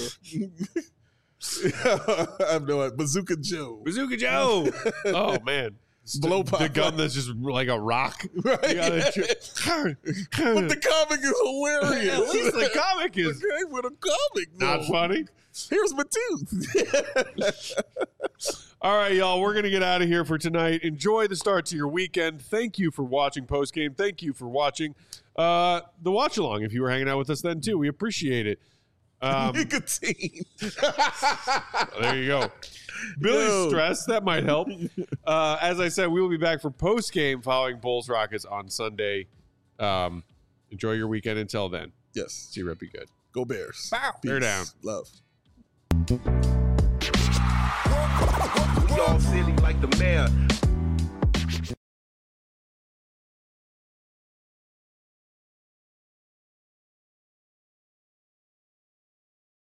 bro. I have no idea. Bazooka Joe. Bazooka Joe. Oh man. Blow the, pop. the gum that's just like a rock. Right. You gotta chew- But the comic is hilarious. At least the comic is Okay, with a comic. not though. funny. Here's my tooth. All right, y'all, we're going to get out of here for tonight. Enjoy the start to your weekend. Thank you for watching postgame. Thank you for watching uh, the watch along. If you were hanging out with us then, too, we appreciate it. Um, Nicotine. there you go. Billy's Yo. stress, that might help. Uh, as I said, we will be back for postgame following Bulls Rockets on Sunday. Um, enjoy your weekend until then. Yes. See you, Rep. Be good. Go Bears. Bear Peace. down. Love. We all silly like the mayor.